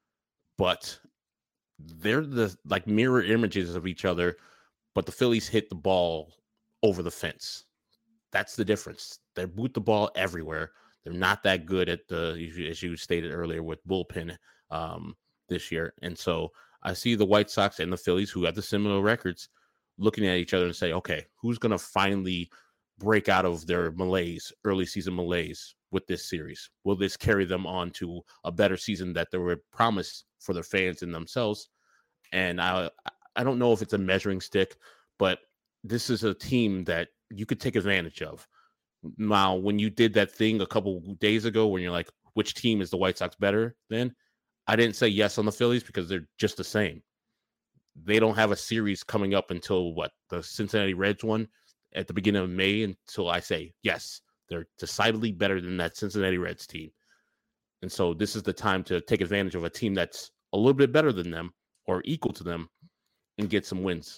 but they're the like mirror images of each other. But the Phillies hit the ball over the fence. That's the difference. They boot the ball everywhere. They're not that good at the, as you stated earlier, with bullpen um, this year. And so I see the White Sox and the Phillies, who have the similar records, looking at each other and say, okay, who's going to finally break out of their malaise, early season malaise with this series? Will this carry them on to a better season that they were promised for their fans and themselves? And I, I don't know if it's a measuring stick, but this is a team that you could take advantage of. Now, when you did that thing a couple days ago, when you're like, which team is the White Sox better than? I didn't say yes on the Phillies because they're just the same. They don't have a series coming up until what, the Cincinnati Reds one at the beginning of May, until I say, yes, they're decidedly better than that Cincinnati Reds team. And so this is the time to take advantage of a team that's a little bit better than them or equal to them and get some wins.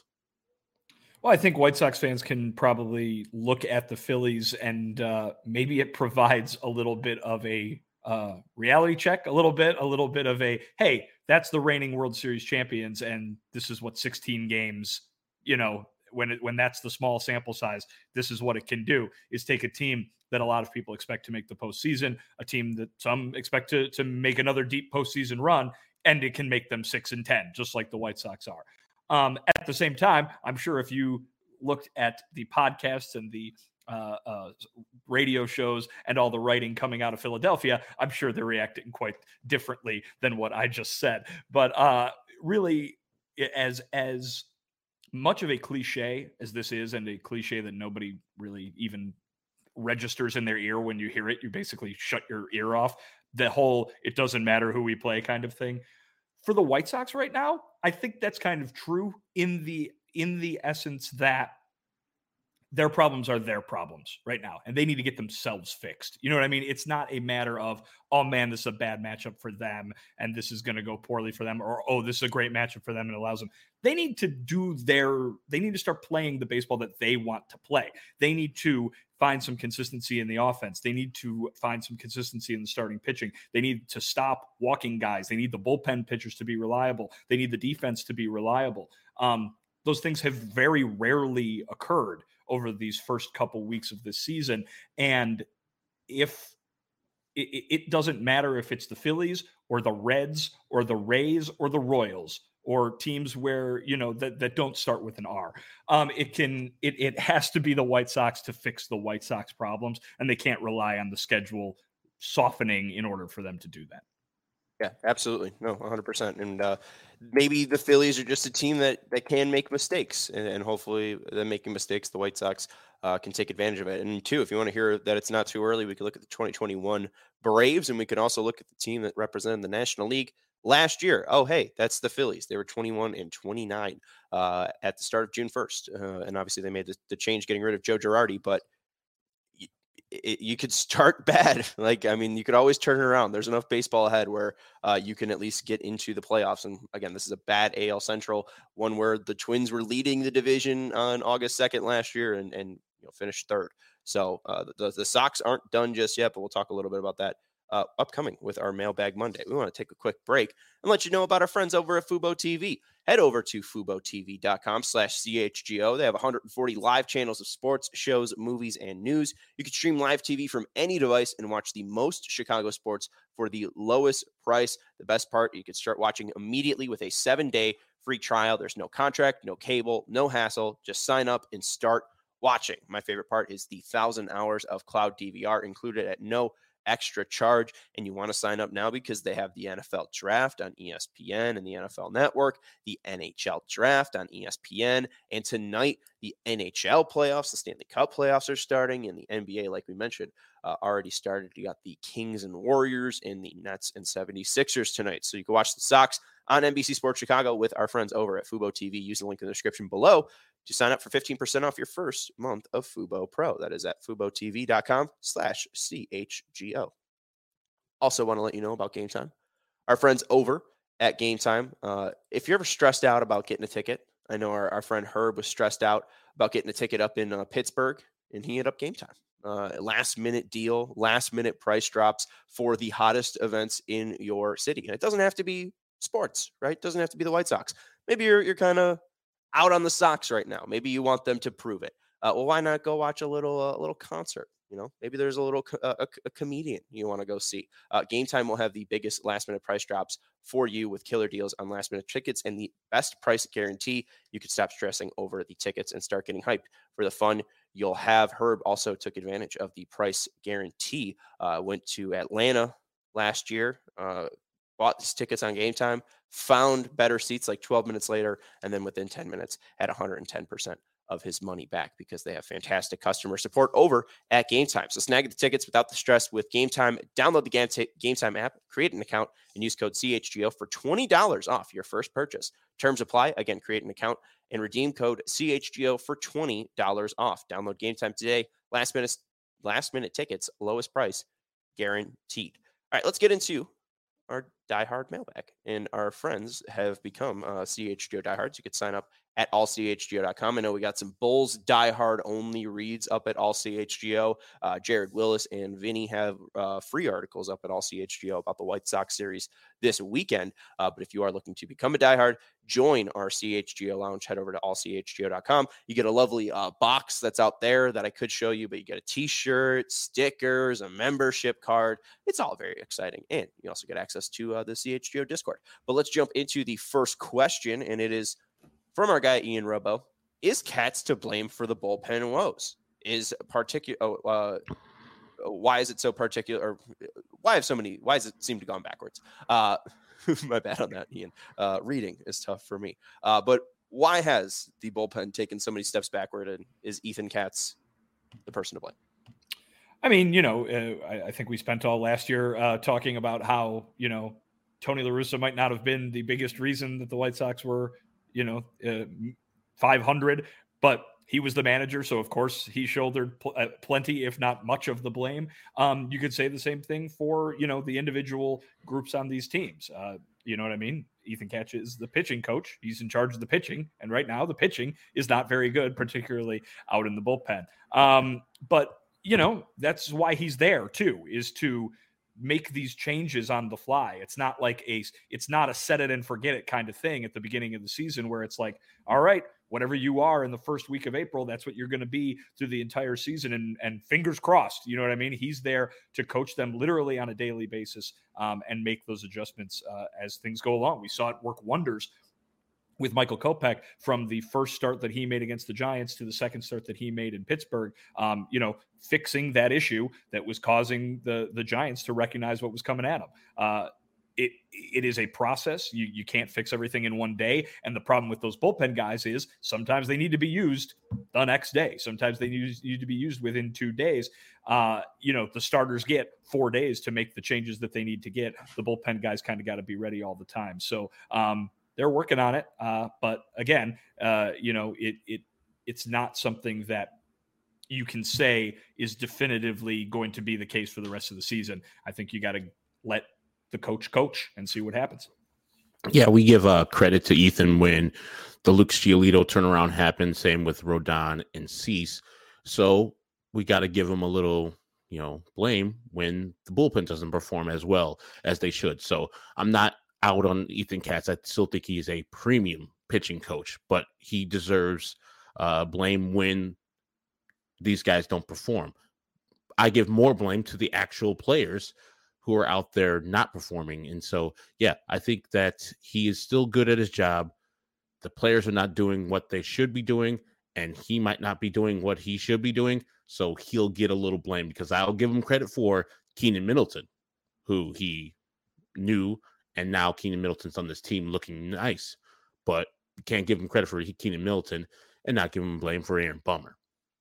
Well, I think White Sox fans can probably look at the Phillies and uh, maybe it provides a little bit of a uh, reality check, a little bit, a little bit of a, hey, that's the reigning World Series champions. And this is what sixteen games, you know, when it, when that's the small sample size, this is what it can do, is take a team that a lot of people expect to make the postseason, a team that some expect to, to make another deep postseason run, and it can make them six and ten, just like the White Sox are. Um, at the same time, I'm sure if you looked at the podcasts and the uh, uh, radio shows and all the writing coming out of Philadelphia, I'm sure they're reacting quite differently than what I just said. But uh, really, as as much of a cliche as this is, and a cliche that nobody really even registers in their ear when you hear it, you basically shut your ear off, the whole it doesn't matter who we play kind of thing. For the White Sox right now, I think that's kind of true in the in the essence that their problems are their problems right now, and they need to get themselves fixed. You know what I mean? It's not a matter of, oh man, this is a bad matchup for them, and this is going to go poorly for them, or oh, this is a great matchup for them and allows them. They need to do their, they need to start playing the baseball that they want to play. They need to find some consistency in the offense. They need to find some consistency in the starting pitching. They need to stop walking guys. They need the bullpen pitchers to be reliable. They need the defense to be reliable. Um, those things have very rarely occurred over these first couple weeks of this season. And if it, it doesn't matter if it's the Phillies or the Reds or the Rays or the Royals or teams where, you know, that, that don't start with an R. Um, it can, it, it has to be the White Sox to fix the White Sox problems, and they can't rely on the schedule softening in order for them to do that. Yeah, absolutely. No, one hundred percent. And uh, maybe the Phillies are just a team that, that can make mistakes, and, and hopefully them making mistakes, the White Sox uh, can take advantage of it. And two, if you want to hear that it's not too early, we could look at the twenty twenty-one Braves, and we can also look at the team that represented the National League last year. Oh, hey, that's the Phillies. They were twenty-one and twenty-nine uh, at the start of June first. Uh, and obviously they made the, the change getting rid of Joe Girardi, but It, you could start bad. Like, I mean, you could always turn it around. There's enough baseball ahead where uh, you can at least get into the playoffs. And again, this is a bad A L Central, one where the Twins were leading the division on August second last year and, and you know, finished third. So uh, the, the Sox aren't done just yet, but we'll talk a little bit about that uh, upcoming with our Mailbag Monday. We want to take a quick break and let you know about our friends over at Fubo T V. Head over to FuboTV.com slash CHGO. They have one hundred forty live channels of sports, shows, movies, and news. You can stream live T V from any device and watch the most Chicago sports for the lowest price. The best part, you can start watching immediately with a seven-day free trial. There's no contract, no cable, no hassle. Just sign up and start watching. My favorite part is the one thousand hours of cloud D V R included at no extra charge, and you want to sign up now because they have the N F L draft on E S P N and the N F L network, the N H L draft on E S P N, and tonight the N H L playoffs, the Stanley Cup playoffs are starting, and the N B A, like we mentioned, uh, already started. You got the Kings and Warriors and the Nets and seventy-sixers tonight, so you can watch the Sox on N B C Sports Chicago with our friends over at Fubo T V. Use the link in the description below to sign up for fifteen percent off your first month of Fubo Pro. That is at FuboTV.com slash CHGO. Also want to let you know about Game Time. Our friends over at Game Time. Uh, if you're ever stressed out about getting a ticket, I know our, our friend Herb was stressed out about getting a ticket up in uh, Pittsburgh, and he hit up Game Time. Uh, last minute deal, last minute price drops for the hottest events in your city. And it doesn't have to be sports, right? It doesn't have to be the White Sox. Maybe you're you're kind of out on the Sox right now. Maybe you want them to prove it. Uh, well, why not go watch a little uh, a little concert? You know, maybe there's a little co- uh, a, a comedian you want to go see. Uh, Game Time will have the biggest last minute price drops for you with killer deals on last minute tickets and the best price guarantee. You can stop stressing over the tickets and start getting hyped for the fun you'll have. Herb also took advantage of the price guarantee. Uh, went to Atlanta last year, uh, bought these tickets on Game Time, found better seats like twelve minutes later, and then within ten minutes had one hundred ten percent of his money back because they have fantastic customer support over at Game Time. So snag the tickets without the stress with Game Time. Download the Game, t- Game Time app, create an account, and use code C H G O for twenty dollars off your first purchase. Terms apply. Again, create an account and redeem code C H G O for twenty dollars off. Download Game Time today. Last minute, last minute tickets, lowest price, guaranteed. All right, let's get into our diehard mailbag, and our friends have become uh, C H G O diehards. You could sign up at all C H G O dot com. I know we got some Bulls diehard only reads up at all C H G O. Uh, Jared Willis and Vinny have uh, free articles up at all C H G O about the White Sox series this weekend. Uh, but if you are looking to become a diehard, join our C H G O lounge. Head over to all C H G O dot com. You get a lovely uh, box that's out there that I could show you, but you get a t-shirt, stickers, a membership card. It's all very exciting. And you also get access to uh, the C H G O Discord. But let's jump into the first question, and it is from our guy, Ian Robo. Is Katz to blame for the bullpen woes? Is particular? Oh, uh, why is it so particular? Or why have so many? Why does it seem to go backwards? Uh, my bad on that, Ian. Uh, reading is tough for me. Uh, but why has the bullpen taken so many steps backward? And is Ethan Katz the person to blame? I mean, you know, uh, I, I think we spent all last year uh, talking about how, you know, Tony La Russa might not have been the biggest reason that the White Sox were, you know, uh, five hundred, but he was the manager. So of course he shouldered pl- uh, plenty, if not much of the blame. Um, you could say the same thing for, you know, the individual groups on these teams. Uh, you know what I mean? Ethan Katz is the pitching coach. He's in charge of the pitching. And right now the pitching is not very good, particularly out in the bullpen. Um, but you know, that's why he's there too, is to make these changes on the fly. It's not like a, it's not a set it and forget it kind of thing at the beginning of the season where it's like, all right, whatever you are in the first week of April, that's what you're going to be through the entire season. And, and fingers crossed, you know what I mean? He's there to coach them literally on a daily basis um, and make those adjustments uh, as things go along. We saw it work wonders with Michael Kopech from the first start that he made against the Giants to the second start that he made in Pittsburgh, um, you know, fixing that issue that was causing the, the Giants to recognize what was coming at them. Uh, It it is a process. You you can't fix everything in one day. And the problem with those bullpen guys is sometimes they need to be used the next day. Sometimes they need, need to be used within two days. Uh, you know, the starters get four days to make the changes that they need to get. The bullpen guys kind of got to be ready all the time. So um, they're working on it. Uh, but again, uh, you know, it it it's not something that you can say is definitively going to be the case for the rest of the season. I think you got to let the coach coach and see what happens. Yeah, we give uh, credit to Ethan when the Luke Giolito turnaround happened. Same with Rodon and Cease. So we got to give him a little, you know, blame when the bullpen doesn't perform as well as they should. So I'm not out on Ethan Katz. I still think he is a premium pitching coach, but he deserves uh, blame when these guys don't perform. I give more blame to the actual players who are out there not performing. And so, yeah, I think that he is still good at his job. The players are not doing what they should be doing, and he might not be doing what he should be doing. So he'll get a little blame because I'll give him credit for Keenan Middleton, who he knew, and now Keenan Middleton's on this team looking nice. But you can't give him credit for Keenan Middleton and not give him blame for Aaron Bummer.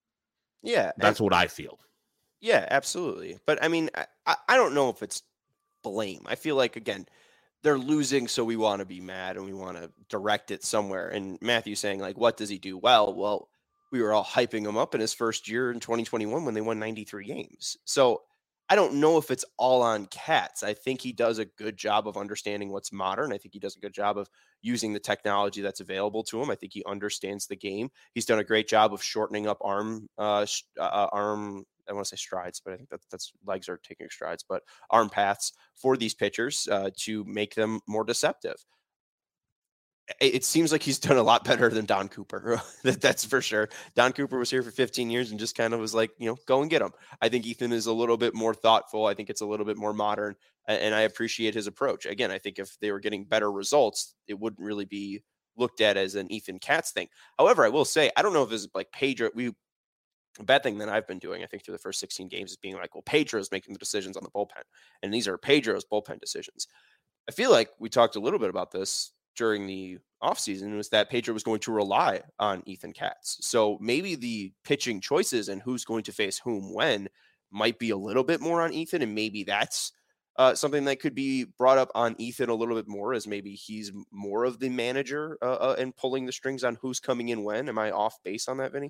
Yeah. That's and, what I feel. Yeah, absolutely. But I mean, I, I don't know if it's blame. I feel like, again, they're losing, so we want to be mad and we want to direct it somewhere. And Matthew saying, like, what does he do well? Well, we were all hyping him up in his first year in twenty twenty-one when they won ninety-three games. So I don't know if it's all on Katz. I think he does a good job of understanding what's modern. I think he does a good job of using the technology that's available to him. I think he understands the game. He's done a great job of shortening up arm, uh, uh arm. I want to say strides, but I think that that's legs are taking strides, but arm paths for these pitchers uh, to make them more deceptive. It, it seems like he's done a lot better than Don Cooper. that, that's for sure. Don Cooper was here for fifteen years and just kind of was like, you know, go and get him. I think Ethan is a little bit more thoughtful. I think it's a little bit more modern, and I appreciate his approach. Again, I think if they were getting better results, it wouldn't really be looked at as an Ethan Katz thing. However, I will say, I don't know if it's like Pedro. We A bad thing that I've been doing, I think, through the first sixteen games is being like, well, Pedro's making the decisions on the bullpen, and these are Pedro's bullpen decisions. I feel like we talked a little bit about this during the offseason, was that Pedro was going to rely on Ethan Katz. So maybe the pitching choices and who's going to face whom when might be a little bit more on Ethan, and maybe that's uh, something that could be brought up on Ethan a little bit more, as maybe he's more of the manager uh, uh, and pulling the strings on who's coming in when. Am I off base on that, Vinny?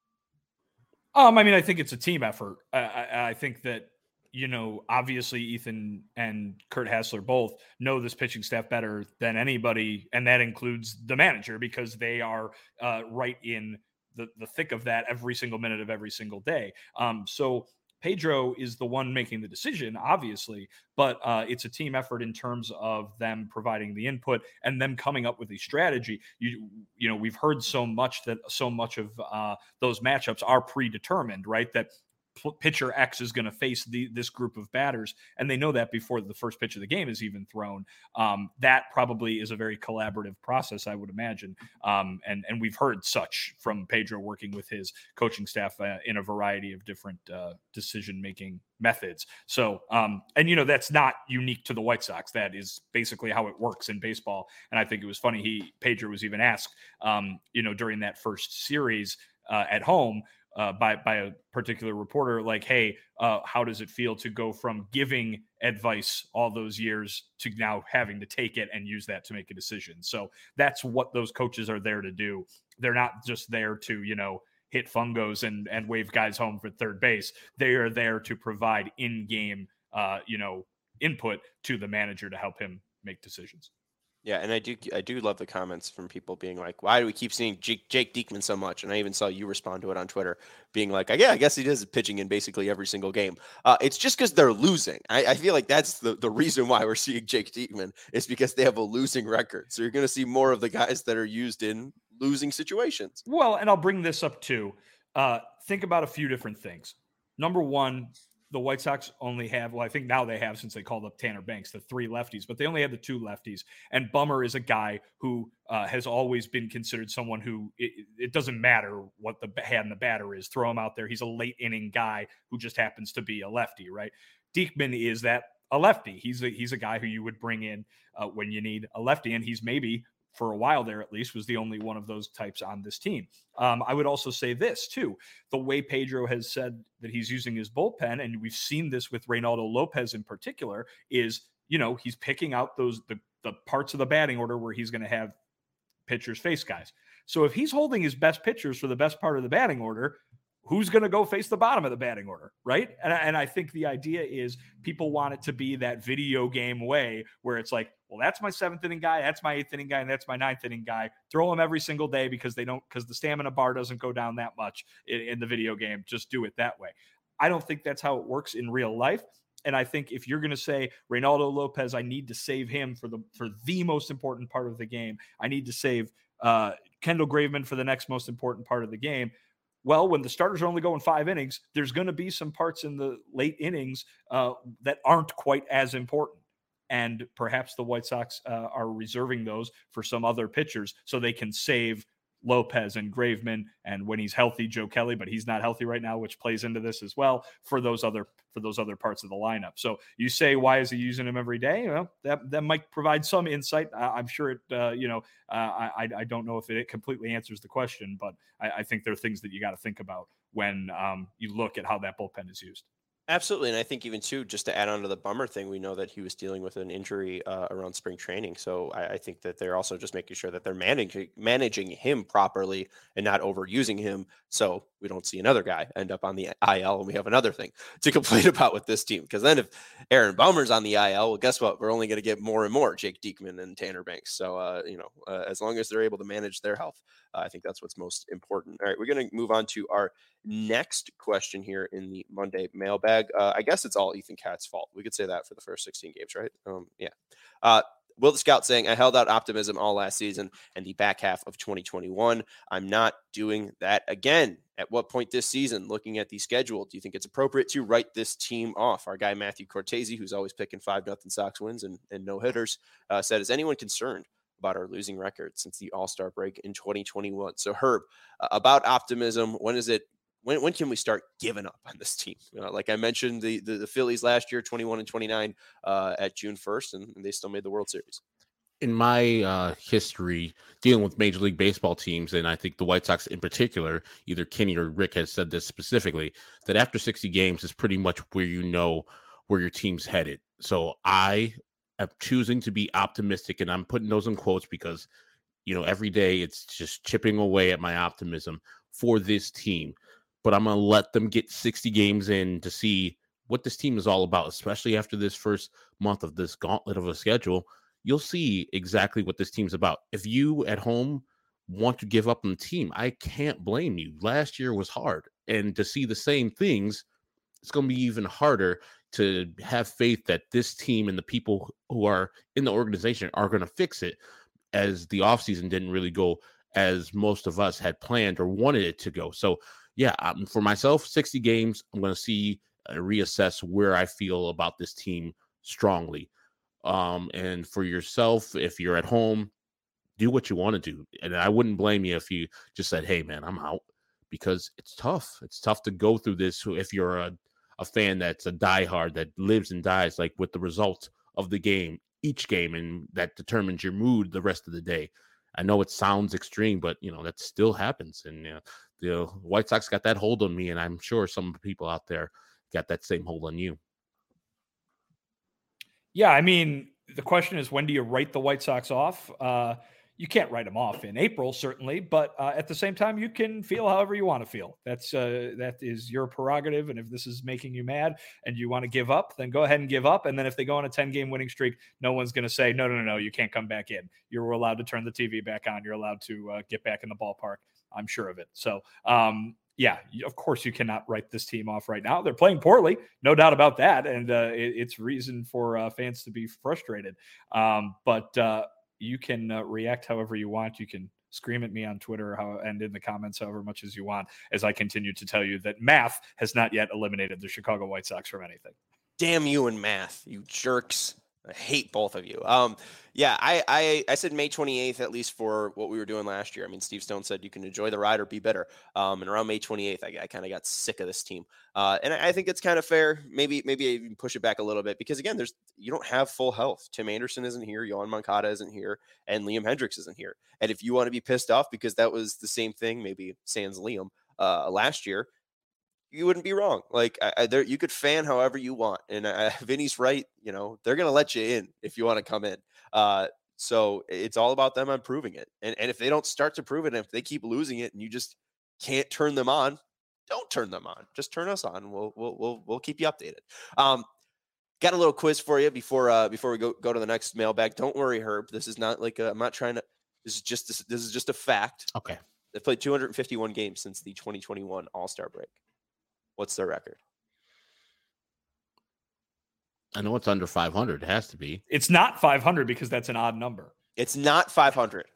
Um, I mean, I think it's a team effort. I, I, I think that, you know, obviously Ethan and Kurt Hassler both know this pitching staff better than anybody, and that includes the manager, because they are uh, right in the, the thick of that every single minute of every single day. Um, so Pedro is the one making the decision, obviously, but uh, it's a team effort in terms of them providing the input and them coming up with a strategy. You, you know, we've heard so much that so much of uh, those matchups are predetermined, right? That pitcher X is going to face the, this group of batters, and they know that before the first pitch of the game is even thrown. Um, that probably is a very collaborative process, I would imagine. Um, and, and we've heard such from Pedro working with his coaching staff uh, in a variety of different uh, decision-making methods. So, um, and you know, that's not unique to the White Sox. That is basically how it works in baseball. And I think it was funny. He, Pedro was even asked, um, you know, during that first series uh, at home, Uh, by by a particular reporter, like, hey, uh, how does it feel to go from giving advice all those years to now having to take it and use that to make a decision? So that's what those coaches are there to do. They're not just there to, you know, hit fungos and and wave guys home for third base. They are there to provide in-game, uh, you know, input to the manager to help him make decisions. Yeah, and I do I do love the comments from people being like, why do we keep seeing Jake, Jake Diekman so much? And I even saw you respond to it on Twitter, being like, yeah, I guess he does pitching in basically every single game. Uh, it's just because they're losing. I, I feel like that's the, the reason why we're seeing Jake Diekman, is because they have a losing record. So you're going to see more of the guys that are used in losing situations. Well, and I'll bring this up too. Uh, think about a few different things. Number one, the White Sox only have, well, I think now they have, since they called up Tanner Banks, the three lefties, but they only have the two lefties. And Bummer is a guy who uh, has always been considered someone who, it, it doesn't matter what the hand the batter is, throw him out there. He's a late inning guy who just happens to be a lefty, right? Diekman is that a lefty. He's a, he's a guy who you would bring in uh, when you need a lefty, and he's maybe, for a while there at least, was the only one of those types on this team. Um, I would also say this too, the way Pedro has said that he's using his bullpen, and we've seen this with Reynaldo Lopez in particular, is, you know, he's picking out those, the, the parts of the batting order where he's going to have pitchers face guys. So if he's holding his best pitchers for the best part of the batting order, who's going to go face the bottom of the batting order, right? And, and I think the idea is people want it to be that video game way where it's like, well, that's my seventh inning guy, that's my eighth inning guy, and that's my ninth inning guy. Throw them every single day because they don't, because the stamina bar doesn't go down that much in, in the video game. Just do it that way. I don't think that's how it works in real life. And I think if you're going to say Reynaldo Lopez, I need to save him for the for the most important part of the game. I need to save uh, Kendall Graveman for the next most important part of the game. Well, when the starters are only going five innings, there's going to be some parts in the late innings uh, that aren't quite as important. And perhaps the White Sox uh, are reserving those for some other pitchers so they can save Lopez and Graveman, and when he's healthy, Joe Kelly, but he's not healthy right now, which plays into this as well for those other for those other parts of the lineup. So you say, why is he using him every day? Well, that that might provide some insight. I, I'm sure it. Uh, you know, uh, I I don't know if it completely answers the question, but I, I think there are things that you got to think about when um, you look at how that bullpen is used. Absolutely. And I think even too, just to add on to the Bummer thing, we know that he was dealing with an injury uh, around spring training. So I, I think that they're also just making sure that they're managing managing him properly and not overusing him. So we don't see another guy end up on the I L and we have another thing to complain about with this team. Because then if Aaron Bummer's on the I L, well, guess what? We're only going to get more and more Jake Diekman and Tanner Banks. So, uh, you know, uh, as long as they're able to manage their health, uh, I think that's what's most important. All right, we're going to move on to our next question here in the Monday mailbag. Uh, I guess it's all Ethan Katz's fault. We could say that for the first sixteen games, right? Um, yeah. Uh, Will the Scout saying, I held out optimism all last season and the back half of twenty twenty-one. I'm not doing that again. At what point this season, looking at the schedule, do you think it's appropriate to write this team off? Our guy, Matthew Cortese, who's always picking five nothing Sox wins and, and no hitters, uh, said, is anyone concerned about our losing record since the All-Star break in twenty twenty-one? So Herb, uh, about optimism, when is it, when when can we start giving up on this team? You know, like I mentioned, the, the the Phillies last year, twenty-one and twenty-nine uh, at June first, and, and they still made the World Series. In my uh, history dealing with Major League Baseball teams, and I think the White Sox in particular, either Kenny or Rick has said this specifically, that after sixty games is pretty much where you know where your team's headed. So I am choosing to be optimistic, and I'm putting those in quotes because, you know, every day it's just chipping away at my optimism for this team. But I'm going to let them get sixty games in to see what this team is all about, especially after this first month of this gauntlet of a schedule. You'll see exactly what this team's about. If you at home want to give up on the team, I can't blame you. Last year was hard. And to see the same things, it's going to be even harder to have faith that this team and the people who are in the organization are going to fix it, as the offseason didn't really go as most of us had planned or wanted it to go. So, yeah, um, for myself, sixty games, I'm going to see, uh, reassess where I feel about this team strongly. Um, and for yourself, if you're at home, do what you want to do. And I wouldn't blame you if you just said, hey, man, I'm out, because it's tough. It's tough to go through this if you're a, a fan that's a diehard that lives and dies like with the result of the game, each game, and that determines your mood the rest of the day. I know it sounds extreme, but, you know, that still happens. And uh, the White Sox got that hold on me, and I'm sure some people out there got that same hold on you. Yeah, I mean, the question is, when do you write the White Sox off? Uh, you can't write them off in April, certainly, but uh, at the same time, you can feel however you want to feel. That's uh, that is your prerogative, and if this is making you mad and you want to give up, then go ahead and give up. And then if they go on a ten-game winning streak, no one's going to say, no, no, no, no, you can't come back in. You're allowed to turn the T V back on. You're allowed to uh, get back in the ballpark. I'm sure of it. So, um, yeah, of course you cannot write this team off right now. They're playing poorly, no doubt about that, and uh, it, it's reason for uh, fans to be frustrated. Um, but uh, you can uh, react however you want. You can scream at me on Twitter how, and in the comments however much as you want, as I continue to tell you that math has not yet eliminated the Chicago White Sox from anything. Damn you and math, you jerks. I hate both of you. Um, yeah, I, I I said May twenty-eighth, at least for what we were doing last year. I mean, Steve Stone said you can enjoy the ride or be bitter. Um, and around May twenty-eighth, I, I kind of got sick of this team. Uh, and I, I think it's kind of fair. Maybe maybe I even push it back a little bit because, again, there's you don't have full health. Tim Anderson isn't here. Yohan Moncada isn't here. And Liam Hendriks isn't here. And if you want to be pissed off because that was the same thing, maybe sans Liam, uh, last year, you wouldn't be wrong. Like I, I, there, you could fan however you want, and uh, Vinny's right. You know they're gonna let you in if you want to come in. Uh, so it's all about them improving it. And and if they don't start to prove it, and if they keep losing it, and you just can't turn them on, don't turn them on. Just turn us on. We'll we'll we'll we'll keep you updated. Um, got a little quiz for you before uh before we go go to the next mailbag. Don't worry, Herb. This is not like a, I'm not trying to. This is just this, this is just a fact. Okay. They've played two hundred fifty-one games since the twenty twenty-one All-Star break. What's their record? I know it's under five hundred. It has to be. It's not five hundred because that's an odd number. It's not five hundred.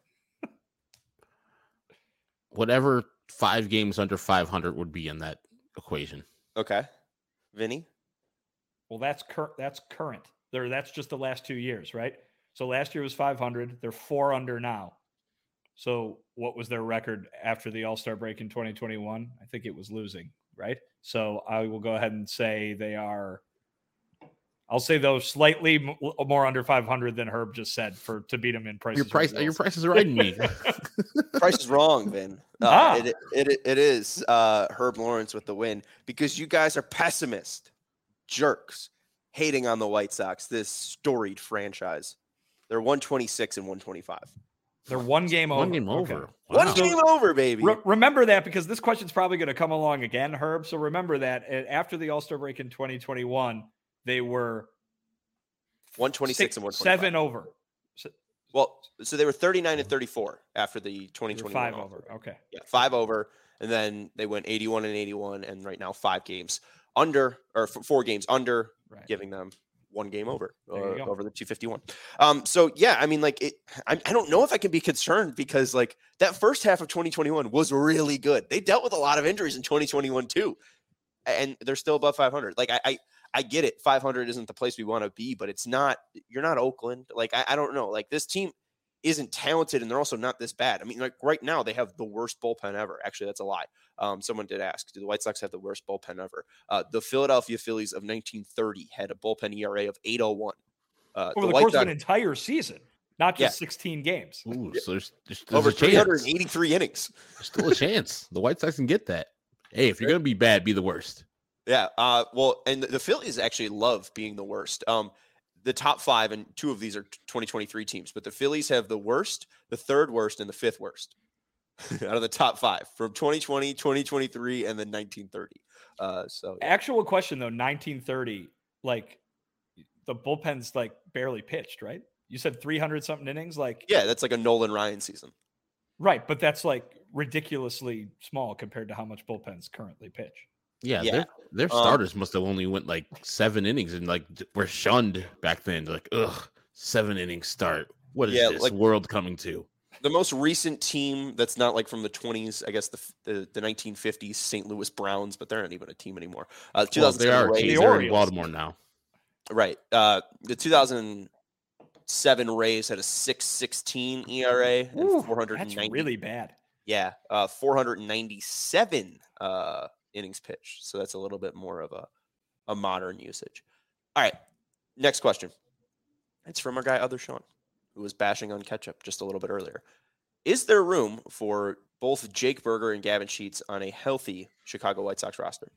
Whatever five games under five hundred would be in that equation. Okay. Vinny? Well, that's cur- that's current. There, that's just the last two years, right? So last year was five hundred. They're four under now. So what was their record after the All-Star break in twenty twenty-one? I think it was losing, right? So I will go ahead and say they are, I'll say those slightly m- more under five hundred than Herb just said for to beat him in prices. Your price, your prices are right in me. Price is wrong, Vin. Uh, Ah. it, it, it is uh, Herb Lawrence with the win because you guys are pessimist jerks hating on the White Sox, this storied franchise. They're one twenty-six and one twenty-five. They're one game over. One game Okay. over. One Wow. game over, baby. Re- remember that because this question's probably going to come along again, Herb. So remember that uh, after the All-Star break in twenty twenty-one, they were one twenty-six six, and one twenty-five. seven over. So Well, so they were thirty-nine and thirty-four after the they twenty were twenty-one. five All-Star over. break. Okay. Yeah, five over, and then they went eighty-one and eighty-one, and right now five games under, or f- four games under, Right. giving them one game over There you uh, go. over the two fifty-one. Um, so yeah, I mean, like it. I, I don't know if I can be concerned because like that first half of twenty twenty-one was really good. They dealt with a lot of injuries in twenty twenty-one too, and they're still above five hundred. Like I, I, I get it. five hundred isn't the place we want to be, but it's not. You're not Oakland. Like I, I don't know. Like this team isn't talented, and they're also not this bad. I mean, like right now they have the worst bullpen ever. Actually, that's a lie. Um, someone did ask, do the White Sox have the worst bullpen ever? Uh, the Philadelphia Phillies of nineteen thirty had a bullpen E R A of eight oh one. Uh, Over the, White course Sox, of an entire season, not just Yeah. sixteen games. Ooh, so there's, there's, there's over a chance. three eighty-three innings. There's still a chance. The White Sox can get that. Hey, if you're gonna be bad, be the worst. Yeah. Uh, well, and the, the Phillies actually love being the worst. Um, the top five, and two of these are twenty twenty-three teams, but the Phillies have the worst, the third worst, and the fifth worst out of the top five from twenty twenty, twenty twenty-three, and then nineteen thirty. Uh, so yeah. Actual question though, nineteen thirty, like the bullpen's like barely pitched, right? You said three hundred something innings, like yeah, that's like a Nolan Ryan season. right, but that's like ridiculously small compared to how much bullpens currently pitch. Yeah, Yeah. their their Um, starters must have only went like seven innings and like d- were shunned back then. Like, ugh, seven innings start. What is Yeah, this like- world coming to? The most recent team that's not like from the twenties, I guess the the, the nineteen fifties, Saint Louis Browns, but they're not even a team anymore. Uh, Well, they two thousand seven are. Rays, Rays, The they're in Orioles. Baltimore now. right? Uh, the two thousand seven Rays had a six sixteen E R A and Ooh, four hundred that's ninety. really bad. Yeah, uh, four hundred ninety-seven uh, innings pitched. So that's a little bit more of a, a modern usage. All right, next question. It's from our guy, Other Sean, who was bashing on Ketchup just a little bit earlier. Is there room for both Jake Berger and Gavin Sheets on a healthy Chicago White Sox roster?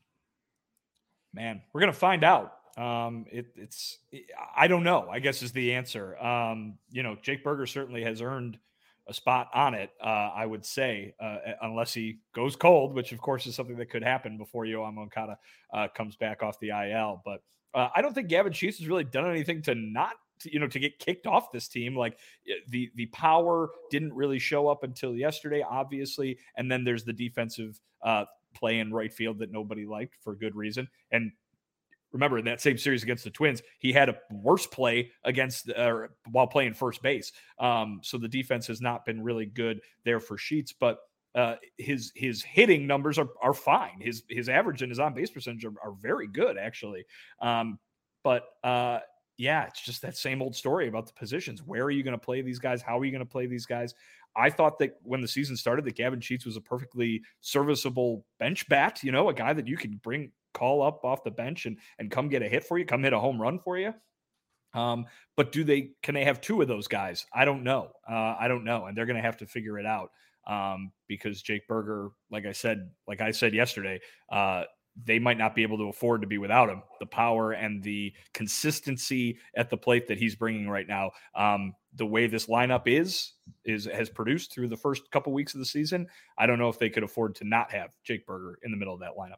Man, we're gonna find out. Um, it, it's I don't know. I guess is the answer. Um, you know, Jake Berger certainly has earned a spot on it. Uh, I would say, uh, unless he goes cold, which of course is something that could happen before Yohan Moncada uh, comes back off the I L. But uh, I don't think Gavin Sheets has really done anything to not. To, you know, to get kicked off this team. Like the the power didn't really show up until yesterday, obviously, and then there's the defensive uh, play in right field that nobody liked for good reason. And remember in that same series against the Twins, he had a worse play against uh, while playing first base. Um, so the defense has not been really good there for Sheets, but uh, his his hitting numbers are are fine. His his average and his on base percentage are, are very good actually. Um, but uh, yeah, it's just that same old story about the positions. Where are you going to play these guys? How are you going to play these guys? I thought that when the season started, that Gavin Sheets was a perfectly serviceable bench bat, you know, a guy that you can bring, call up off the bench and, and come get a hit for you, come hit a home run for you. Um, but do they, can they have two of those guys? I don't know. Uh, I don't know. And they're going to have to figure it out um, because Jake Burger, like I said, like I said yesterday, uh, they might not be able to afford to be without him. The power and the consistency at the plate that he's bringing right now, um, the way this lineup is, is has produced through the first couple weeks of the season. I don't know if they could afford to not have Jake Burger in the middle of that lineup.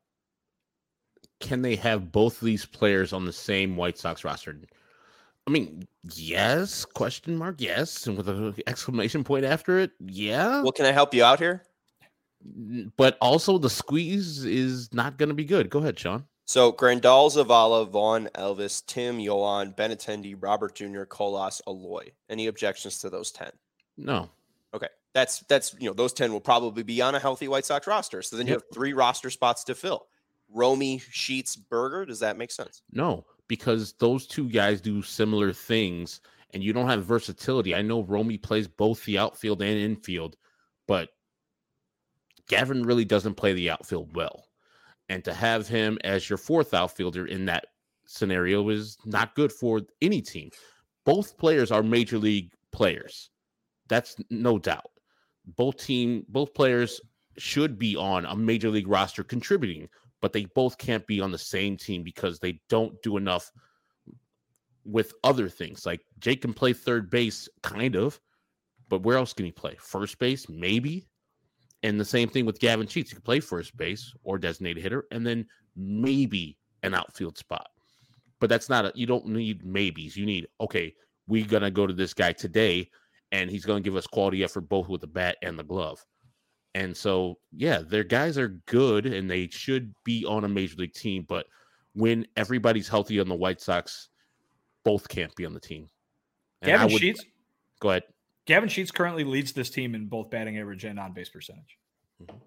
Can they have both of these players on the same White Sox roster? I mean, yes, question mark, yes, and with an exclamation point after it, yeah. Well, can I help you out here? But also the squeeze is not going to be good. Go ahead, Sean. So Grandal, Zavala, Vaughn, Elvis, Tim, Yoan, Benintendi, Robert Junior, Colas, Aloy. Any objections to those ten? No. Okay. That's, that's, you know, those ten will probably be on a healthy White Sox roster. So then you Yep. have three roster spots to fill. Romy, Sheets, Burger. Does that make sense? No, because those two guys do similar things and you don't have versatility. I know Romy plays both the outfield and infield, but Gavin really doesn't play the outfield well. And to have him as your fourth outfielder in that scenario is not good for any team. Both players are major league players. That's no doubt. Both team, both players should be on a major league roster contributing, but they both can't be on the same team because they don't do enough with other things. Like Jake can play third base, kind of, but where else can he play? First base, maybe. And the same thing with Gavin Sheets. He can play first base or designated hitter, and then maybe an outfield spot. But that's not a, you don't need maybes. You need, okay, we're going to go to this guy today, and he's going to give us quality effort both with the bat and the glove. And so, yeah, their guys are good, and they should be on a major league team. But when everybody's healthy on the White Sox, both can't be on the team. And Gavin I would, Sheets? Go ahead. Gavin Sheets currently leads this team in both batting average and on-base percentage. Mm-hmm.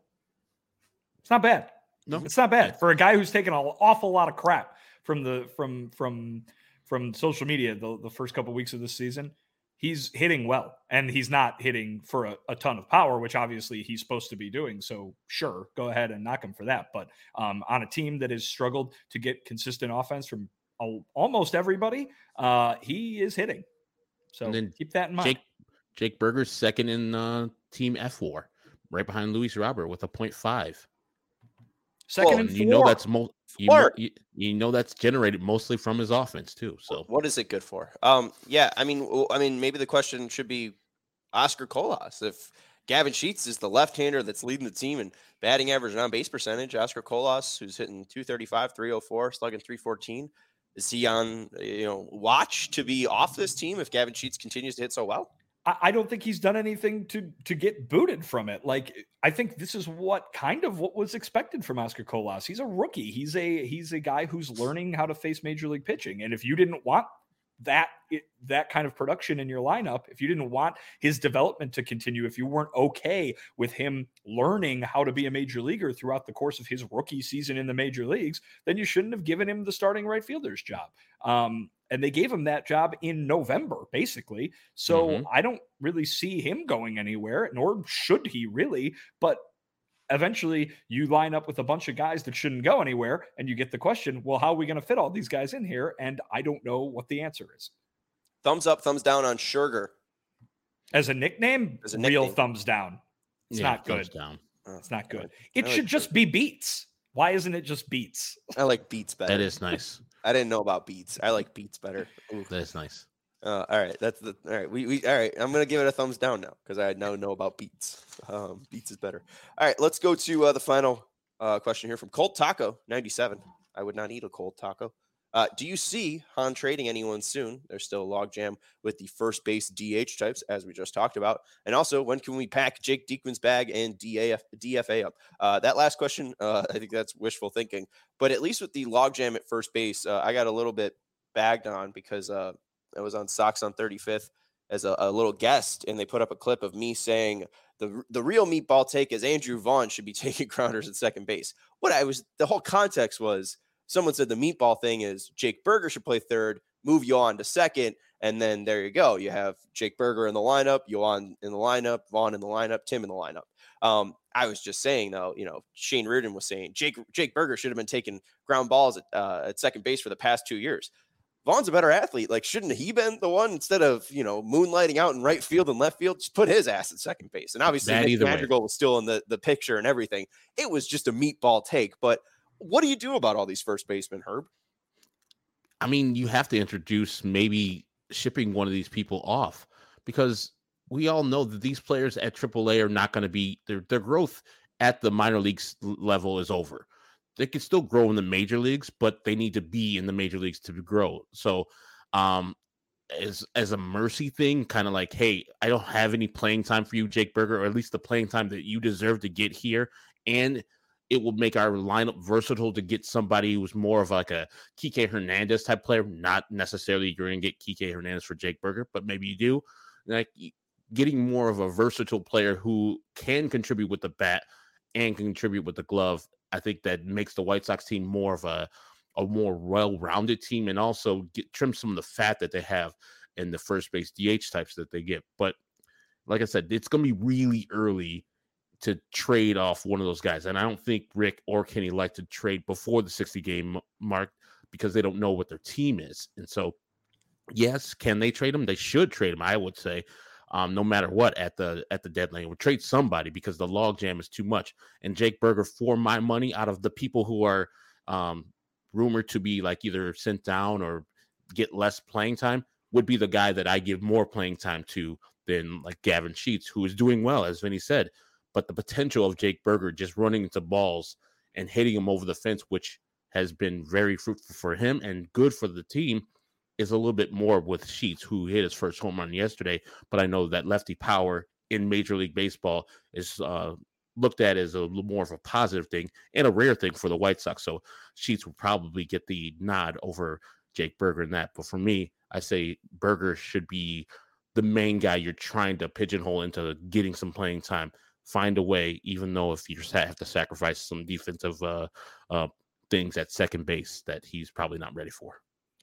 It's not bad. No, it's not bad for a guy who's taken an awful lot of crap from the from from from social media the, the first couple of weeks of this season. He's hitting well, and he's not hitting for a, a ton of power, which obviously he's supposed to be doing. So sure, go ahead and knock him for that. But um, on a team that has struggled to get consistent offense from a, almost everybody, uh, he is hitting. So then keep that in mind. Jake, Jake Burger's second in uh, Team F W A R, right behind Luis Robert with a point five. Second well, and and four. You know that's mo- you, know, you, you know that's generated mostly from his offense too. So what is it good for? Um, yeah, I mean, I mean, maybe the question should be Oscar Colas. If Gavin Sheets is the left-hander that's leading the team in batting average and on-base percentage, Oscar Colas, who's hitting two thirty-five, three oh four, slugging three fourteen, is he on, you know, watch to be off this team if Gavin Sheets continues to hit so well? I don't think he's done anything to to get booted from it. Like, I think this is what kind of what was expected from Oscar Colas. He's a rookie. He's a he's a guy who's learning how to face major league pitching. And if you didn't want that that kind of production in your lineup, if you didn't want his development to continue, if you weren't okay with him learning how to be a major leaguer throughout the course of his rookie season in the major leagues, then you shouldn't have given him the starting right fielder's job. Um, and they gave him that job in November, basically. So mm-hmm. I don't really see him going anywhere, nor should he really. But eventually you line up with a bunch of guys that shouldn't go anywhere, and you get the question, well, how are we going to fit all these guys in here? And I don't know what the answer is. Thumbs up, thumbs down on Sugar. As a nickname, As a real nickname. Thumbs down. It's yeah, not good. Down. It's not good. It I should like just it. be Beats. Why isn't it just Beats? I like Beats better. That is nice. I didn't know about Beats. I like Beats better. Ooh. That is nice. Uh, all right, that's the all right. We, we all right. I'm gonna give it a thumbs down now because I now know about Beats. Um, Beats is better. All right, let's go to uh, the final uh, question here from Cold Taco ninety-seven. I would not eat a cold taco. Uh, do you see Han trading anyone soon? There's still a logjam with the first base D H types, as we just talked about. And also, when can we pack Jake Diekman's bag and D A F, D F A up? Uh, that last question, uh, I think that's wishful thinking. But at least with the logjam at first base, uh, I got a little bit bagged on because uh, I was on Sox on thirty-fifth as a, a little guest, and they put up a clip of me saying the the real meatball take is Andrew Vaughn should be taking grounders at second base. What I was, the whole context was, someone said the meatball thing is Jake Burger should play third, move you on to second, and then there you go. You have Jake Burger in the lineup, Yoan in the lineup, Vaughn in the lineup, Tim in the lineup. Um, I was just saying, though, you know, Shane Reardon was saying Jake Jake Burger should have been taking ground balls at, uh, at second base for the past two years. Vaughn's a better athlete. Like, shouldn't he been the one, instead of, you know, moonlighting out in right field and left field, just put his ass at second base? And obviously, Nick Madrigal was still in the, the picture and everything. It was just a meatball take. But what do you do about all these first basemen, Herb? I mean, you have to introduce maybe shipping one of these people off, because we all know that these players at triple A are not going to be, their, their growth at the minor leagues level is over. They can still grow in the major leagues, but they need to be in the major leagues to grow. So um, as, as a mercy thing, kind of like, hey, I don't have any playing time for you, Jake Burger, or at least the playing time that you deserve to get here. And it will make our lineup versatile to get somebody who's more of like a Kike Hernandez type player. Not necessarily you're going to get Kike Hernandez for Jake Burger, but maybe you do. Like, getting more of a versatile player who can contribute with the bat and contribute with the glove, I think that makes the White Sox team more of a, a more well-rounded team, and also get, trim some of the fat that they have in the first base D H types that they get. But like I said, it's going to be really early to trade off one of those guys. And I don't think Rick or Kenny like to trade before the sixty game mark, because they don't know what their team is. And so, yes, can they trade them? They should trade them, I would say. Um, no matter what, at the at the deadline, would trade somebody, because the logjam is too much. And Jake Burger, for my money, out of the people who are um, rumored to be like either sent down or get less playing time, would be the guy that I give more playing time to than like Gavin Sheets, who is doing well, as Vinny said. But the potential of Jake Burger just running into balls and hitting them over the fence, which has been very fruitful for him and good for the team, is a little bit more with Sheets, who hit his first home run yesterday. But I know that lefty power in Major League Baseball is uh, looked at as a little more of a positive thing and a rare thing for the White Sox. So Sheets will probably get the nod over Jake Burger in that. But for me, I say Burger should be the main guy you're trying to pigeonhole into getting some playing time. Find a way, even though if you just have to sacrifice some defensive uh, uh, things at second base that he's probably not ready for.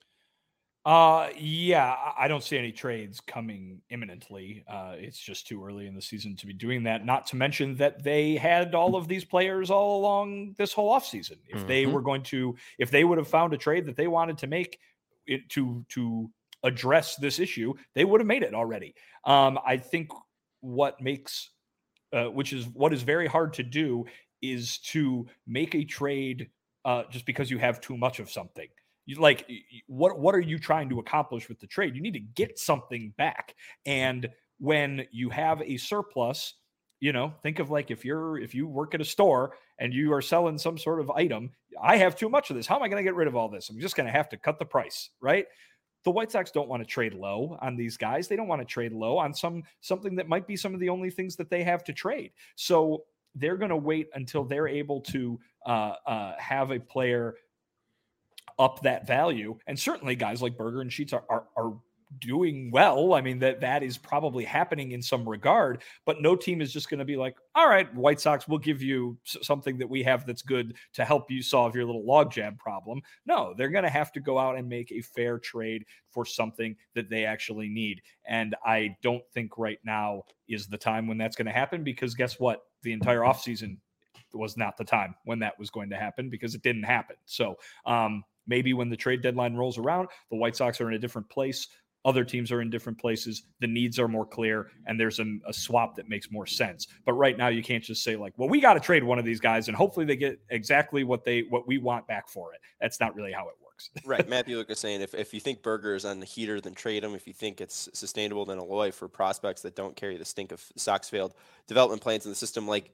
Uh, yeah, I don't see any trades coming imminently. Uh, it's just too early in the season to be doing that. Not to mention that they had all of these players all along this whole offseason. If mm-hmm. they were going to, if they would have found a trade that they wanted to make it to, to address this issue, they would have made it already. Um, I think what makes, uh, which is what is very hard to do, is to make a trade uh, just because you have too much of something. You like what what are you trying to accomplish with the trade? You need to get something back. And when you have a surplus, you know, think of like if you're if you work at a store and you are selling some sort of item, I have too much of this. How am I going to get rid of all this? I'm just going to have to cut the price, right? The White Sox don't want to trade low on these guys. They don't want to trade low on some something that might be some of the only things that they have to trade. So they're going to wait until they're able to uh, uh, have a player up that value. And certainly guys like Burger and Sheets are, are, are doing well. I mean, that that is probably happening in some regard, but no team is just going to be like, all right, White Sox, we'll give you something that we have that's good to help you solve your little logjam problem. No, they're going to have to go out and make a fair trade for something that they actually need. And I don't think right now is the time when that's going to happen, because guess what? The entire offseason was not the time when that was going to happen, because it didn't happen. So, um, maybe when the trade deadline rolls around, the White Sox are in a different place. Other teams are in different places. The needs are more clear, and there's a, a swap that makes more sense. But right now, you can't just say like, well, we got to trade one of these guys, and hopefully they get exactly what they what we want back for it. That's not really how it works. Right. Matthew Lucas saying if, if you think Burger is on the heater, then trade him. If you think it's sustainable, then Aloy for prospects that don't carry the stink of Sox failed development plans in the system. Like,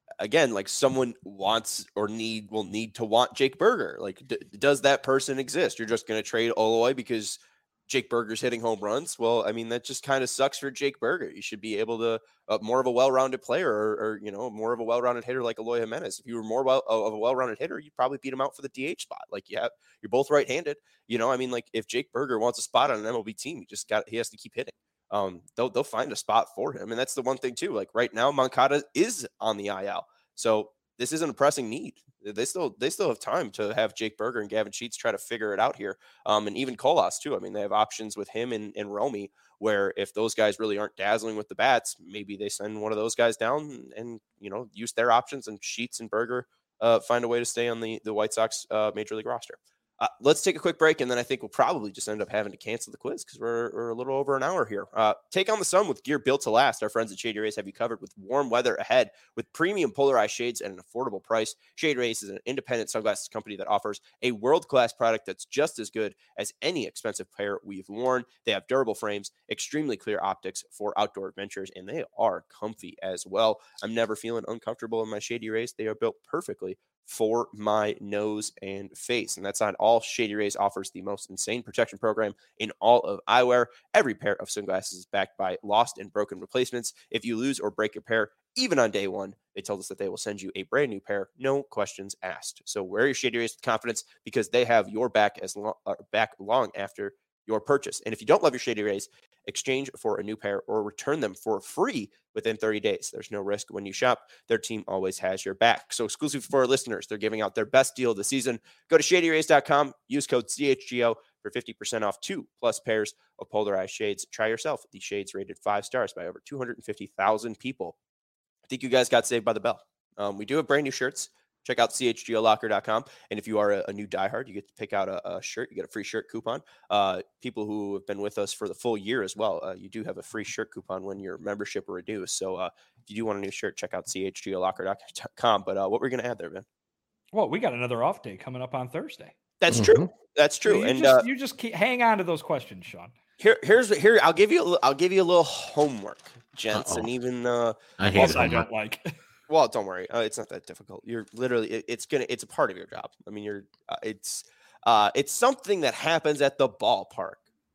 again, like someone wants or need will need to want Jake Burger. Like, d- does that person exist? You're just going to trade Eloy because Jake Burger's hitting home runs? Well, I mean, that just kind of sucks for Jake Burger. You should be able to uh, more of a well-rounded player, or, or you know, more of a well-rounded hitter like Eloy Jimenez. If you were more well of a well-rounded hitter, you'd probably beat him out for the D H spot. Like, you have, you're both right-handed. You know, I mean, like if Jake Burger wants a spot on an M L B team, he just got he has to keep hitting. Um, they'll they'll find a spot for him, and that's the one thing too. Like right now, Moncada is on the I L, so this isn't a pressing need. They still they still have time to have Jake Burger and Gavin Sheets try to figure it out here, um, and even Colas too. I mean, they have options with him and, and Romy, where if those guys really aren't dazzling with the bats, maybe they send one of those guys down and, and you know use their options, and Sheets and Burger uh, find a way to stay on the the White Sox uh, Major League roster. Uh, let's take a quick break, and then I think we'll probably just end up having to cancel the quiz because we're, we're a little over an hour here. Uh, take on the sun with gear built to last. Our friends at Shady Rays have you covered with warm weather ahead with premium polarized shades at an affordable price. Shady Rays is an independent sunglasses company that offers a world-class product that's just as good as any expensive pair we've worn. They have durable frames, extremely clear optics for outdoor adventures, and they are comfy as well. I'm never feeling uncomfortable in my Shady Rays. They are built perfectly for my nose and face. And that's not all. Shady Rays offers the most insane protection program in all of eyewear. Every pair of sunglasses is backed by lost and broken replacements. If you lose or break your pair, even on day one, they told us that they will send you a brand new pair, no questions asked. So wear your Shady Rays with confidence because they have your back as long, uh, back long after your purchase. And if you don't love your Shady Rays, exchange for a new pair or return them for free within thirty days. There's no risk when you shop. Their team always has your back. So exclusive for our listeners, they're giving out their best deal of the season. Go to shady rays dot com, use code C H G O for fifty percent off two plus pairs of polarized shades. Try yourself. These shades rated five stars by over two hundred fifty thousand people. I think you guys got saved by the bell. Um, we do have brand new shirts. Check out C H G O locker dot com. And if you are a, a new diehard, you get to pick out a, a shirt. You get a free shirt coupon. Uh, people who have been with us for the full year as well, uh, you do have a free shirt coupon when your membership renews. So uh, if you do want a new shirt, check out C H G O locker dot com. But uh, what we're going to add there, man? Well, we got another off day coming up on Thursday. That's mm-hmm. true. That's true. So you and just, uh, you just keep, hang on to those questions, Sean. Here, here's here. I'll give you. A, I'll give you a little homework, gents, Uh-oh. and even. Uh, I hate I don't like. Well, don't worry. Uh, it's not that difficult. You're literally, it, it's gonna, it's a part of your job. I mean, you're, uh, it's, uh, it's something that happens at the ballpark.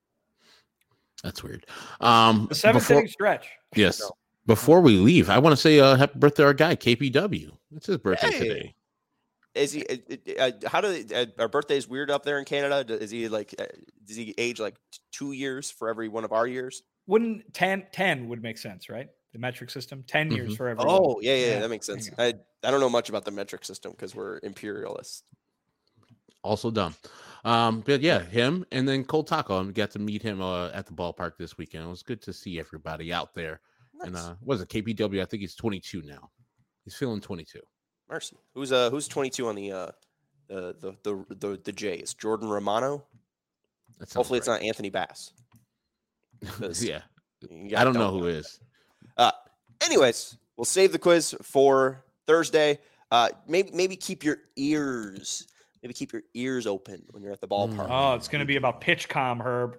That's weird. Um, the seventh before, inning stretch. Yes. No. Before we leave, I want to say uh, happy birthday to our guy K P W. It's his birthday hey. today. Is he? Uh, how do they, uh, our birthdays weird up there in Canada? Is he like? Uh, does he age like two years for every one of our years? Wouldn't ten, ten would make sense, right? The metric system, ten mm-hmm. years for every. Oh, yeah, yeah, yeah, that makes sense. I, I don't know much about the metric system because we're imperialists. Also dumb. Um, but yeah, him and then Cole Taco. I got to meet him uh, at the ballpark this weekend. It was good to see everybody out there. Nice. And uh, what is it K P W? I think he's twenty-two now. He's feeling twenty-two. Mercy. Who's uh who's twenty-two on the uh the the the the, the Jays? Jordan Romano. Hopefully, right. It's not Anthony Bass. Yeah, I don't know who is. Uh, anyways, we'll save the quiz for Thursday. Uh, maybe maybe keep your ears, maybe keep your ears open when you're at the ballpark. Oh, it's going to be about PitchCom, Herb.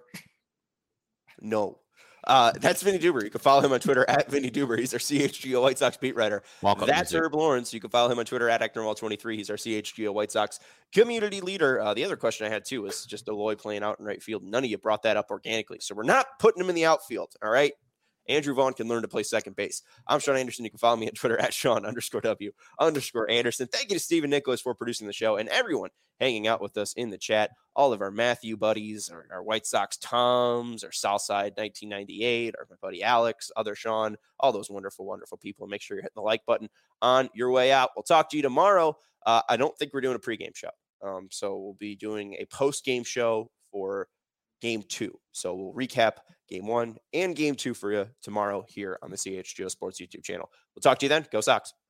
No. Uh, that's Vinny Duber. You can follow him on Twitter at Vinny Duber. He's our C H G O White Sox beat writer. Welcome, that's music. Herb Lawrence. You can follow him on Twitter at Eknerwall twenty-three. He's our C H G O White Sox community leader. Uh, the other question I had, too, was just Eloy playing out in right field. None of you brought that up organically. So we're not putting him in the outfield, all right? Andrew Vaughn can learn to play second base. I'm Sean Anderson. You can follow me on Twitter at Sean underscore W underscore Anderson. Thank you to Stephen Nicholas for producing the show and everyone hanging out with us in the chat. All of our Matthew buddies, our, our White Sox Toms, our Southside nineteen ninety-eight, our my buddy Alex, other Sean, all those wonderful, wonderful people. Make sure you're hitting the like button on your way out. We'll talk to you tomorrow. Uh, I don't think we're doing a pregame show. Um, so we'll be doing a post-game show for game two. So we'll recap game one and game two for you tomorrow here on the C H G O Sports YouTube channel. We'll talk to you then. Go Sox.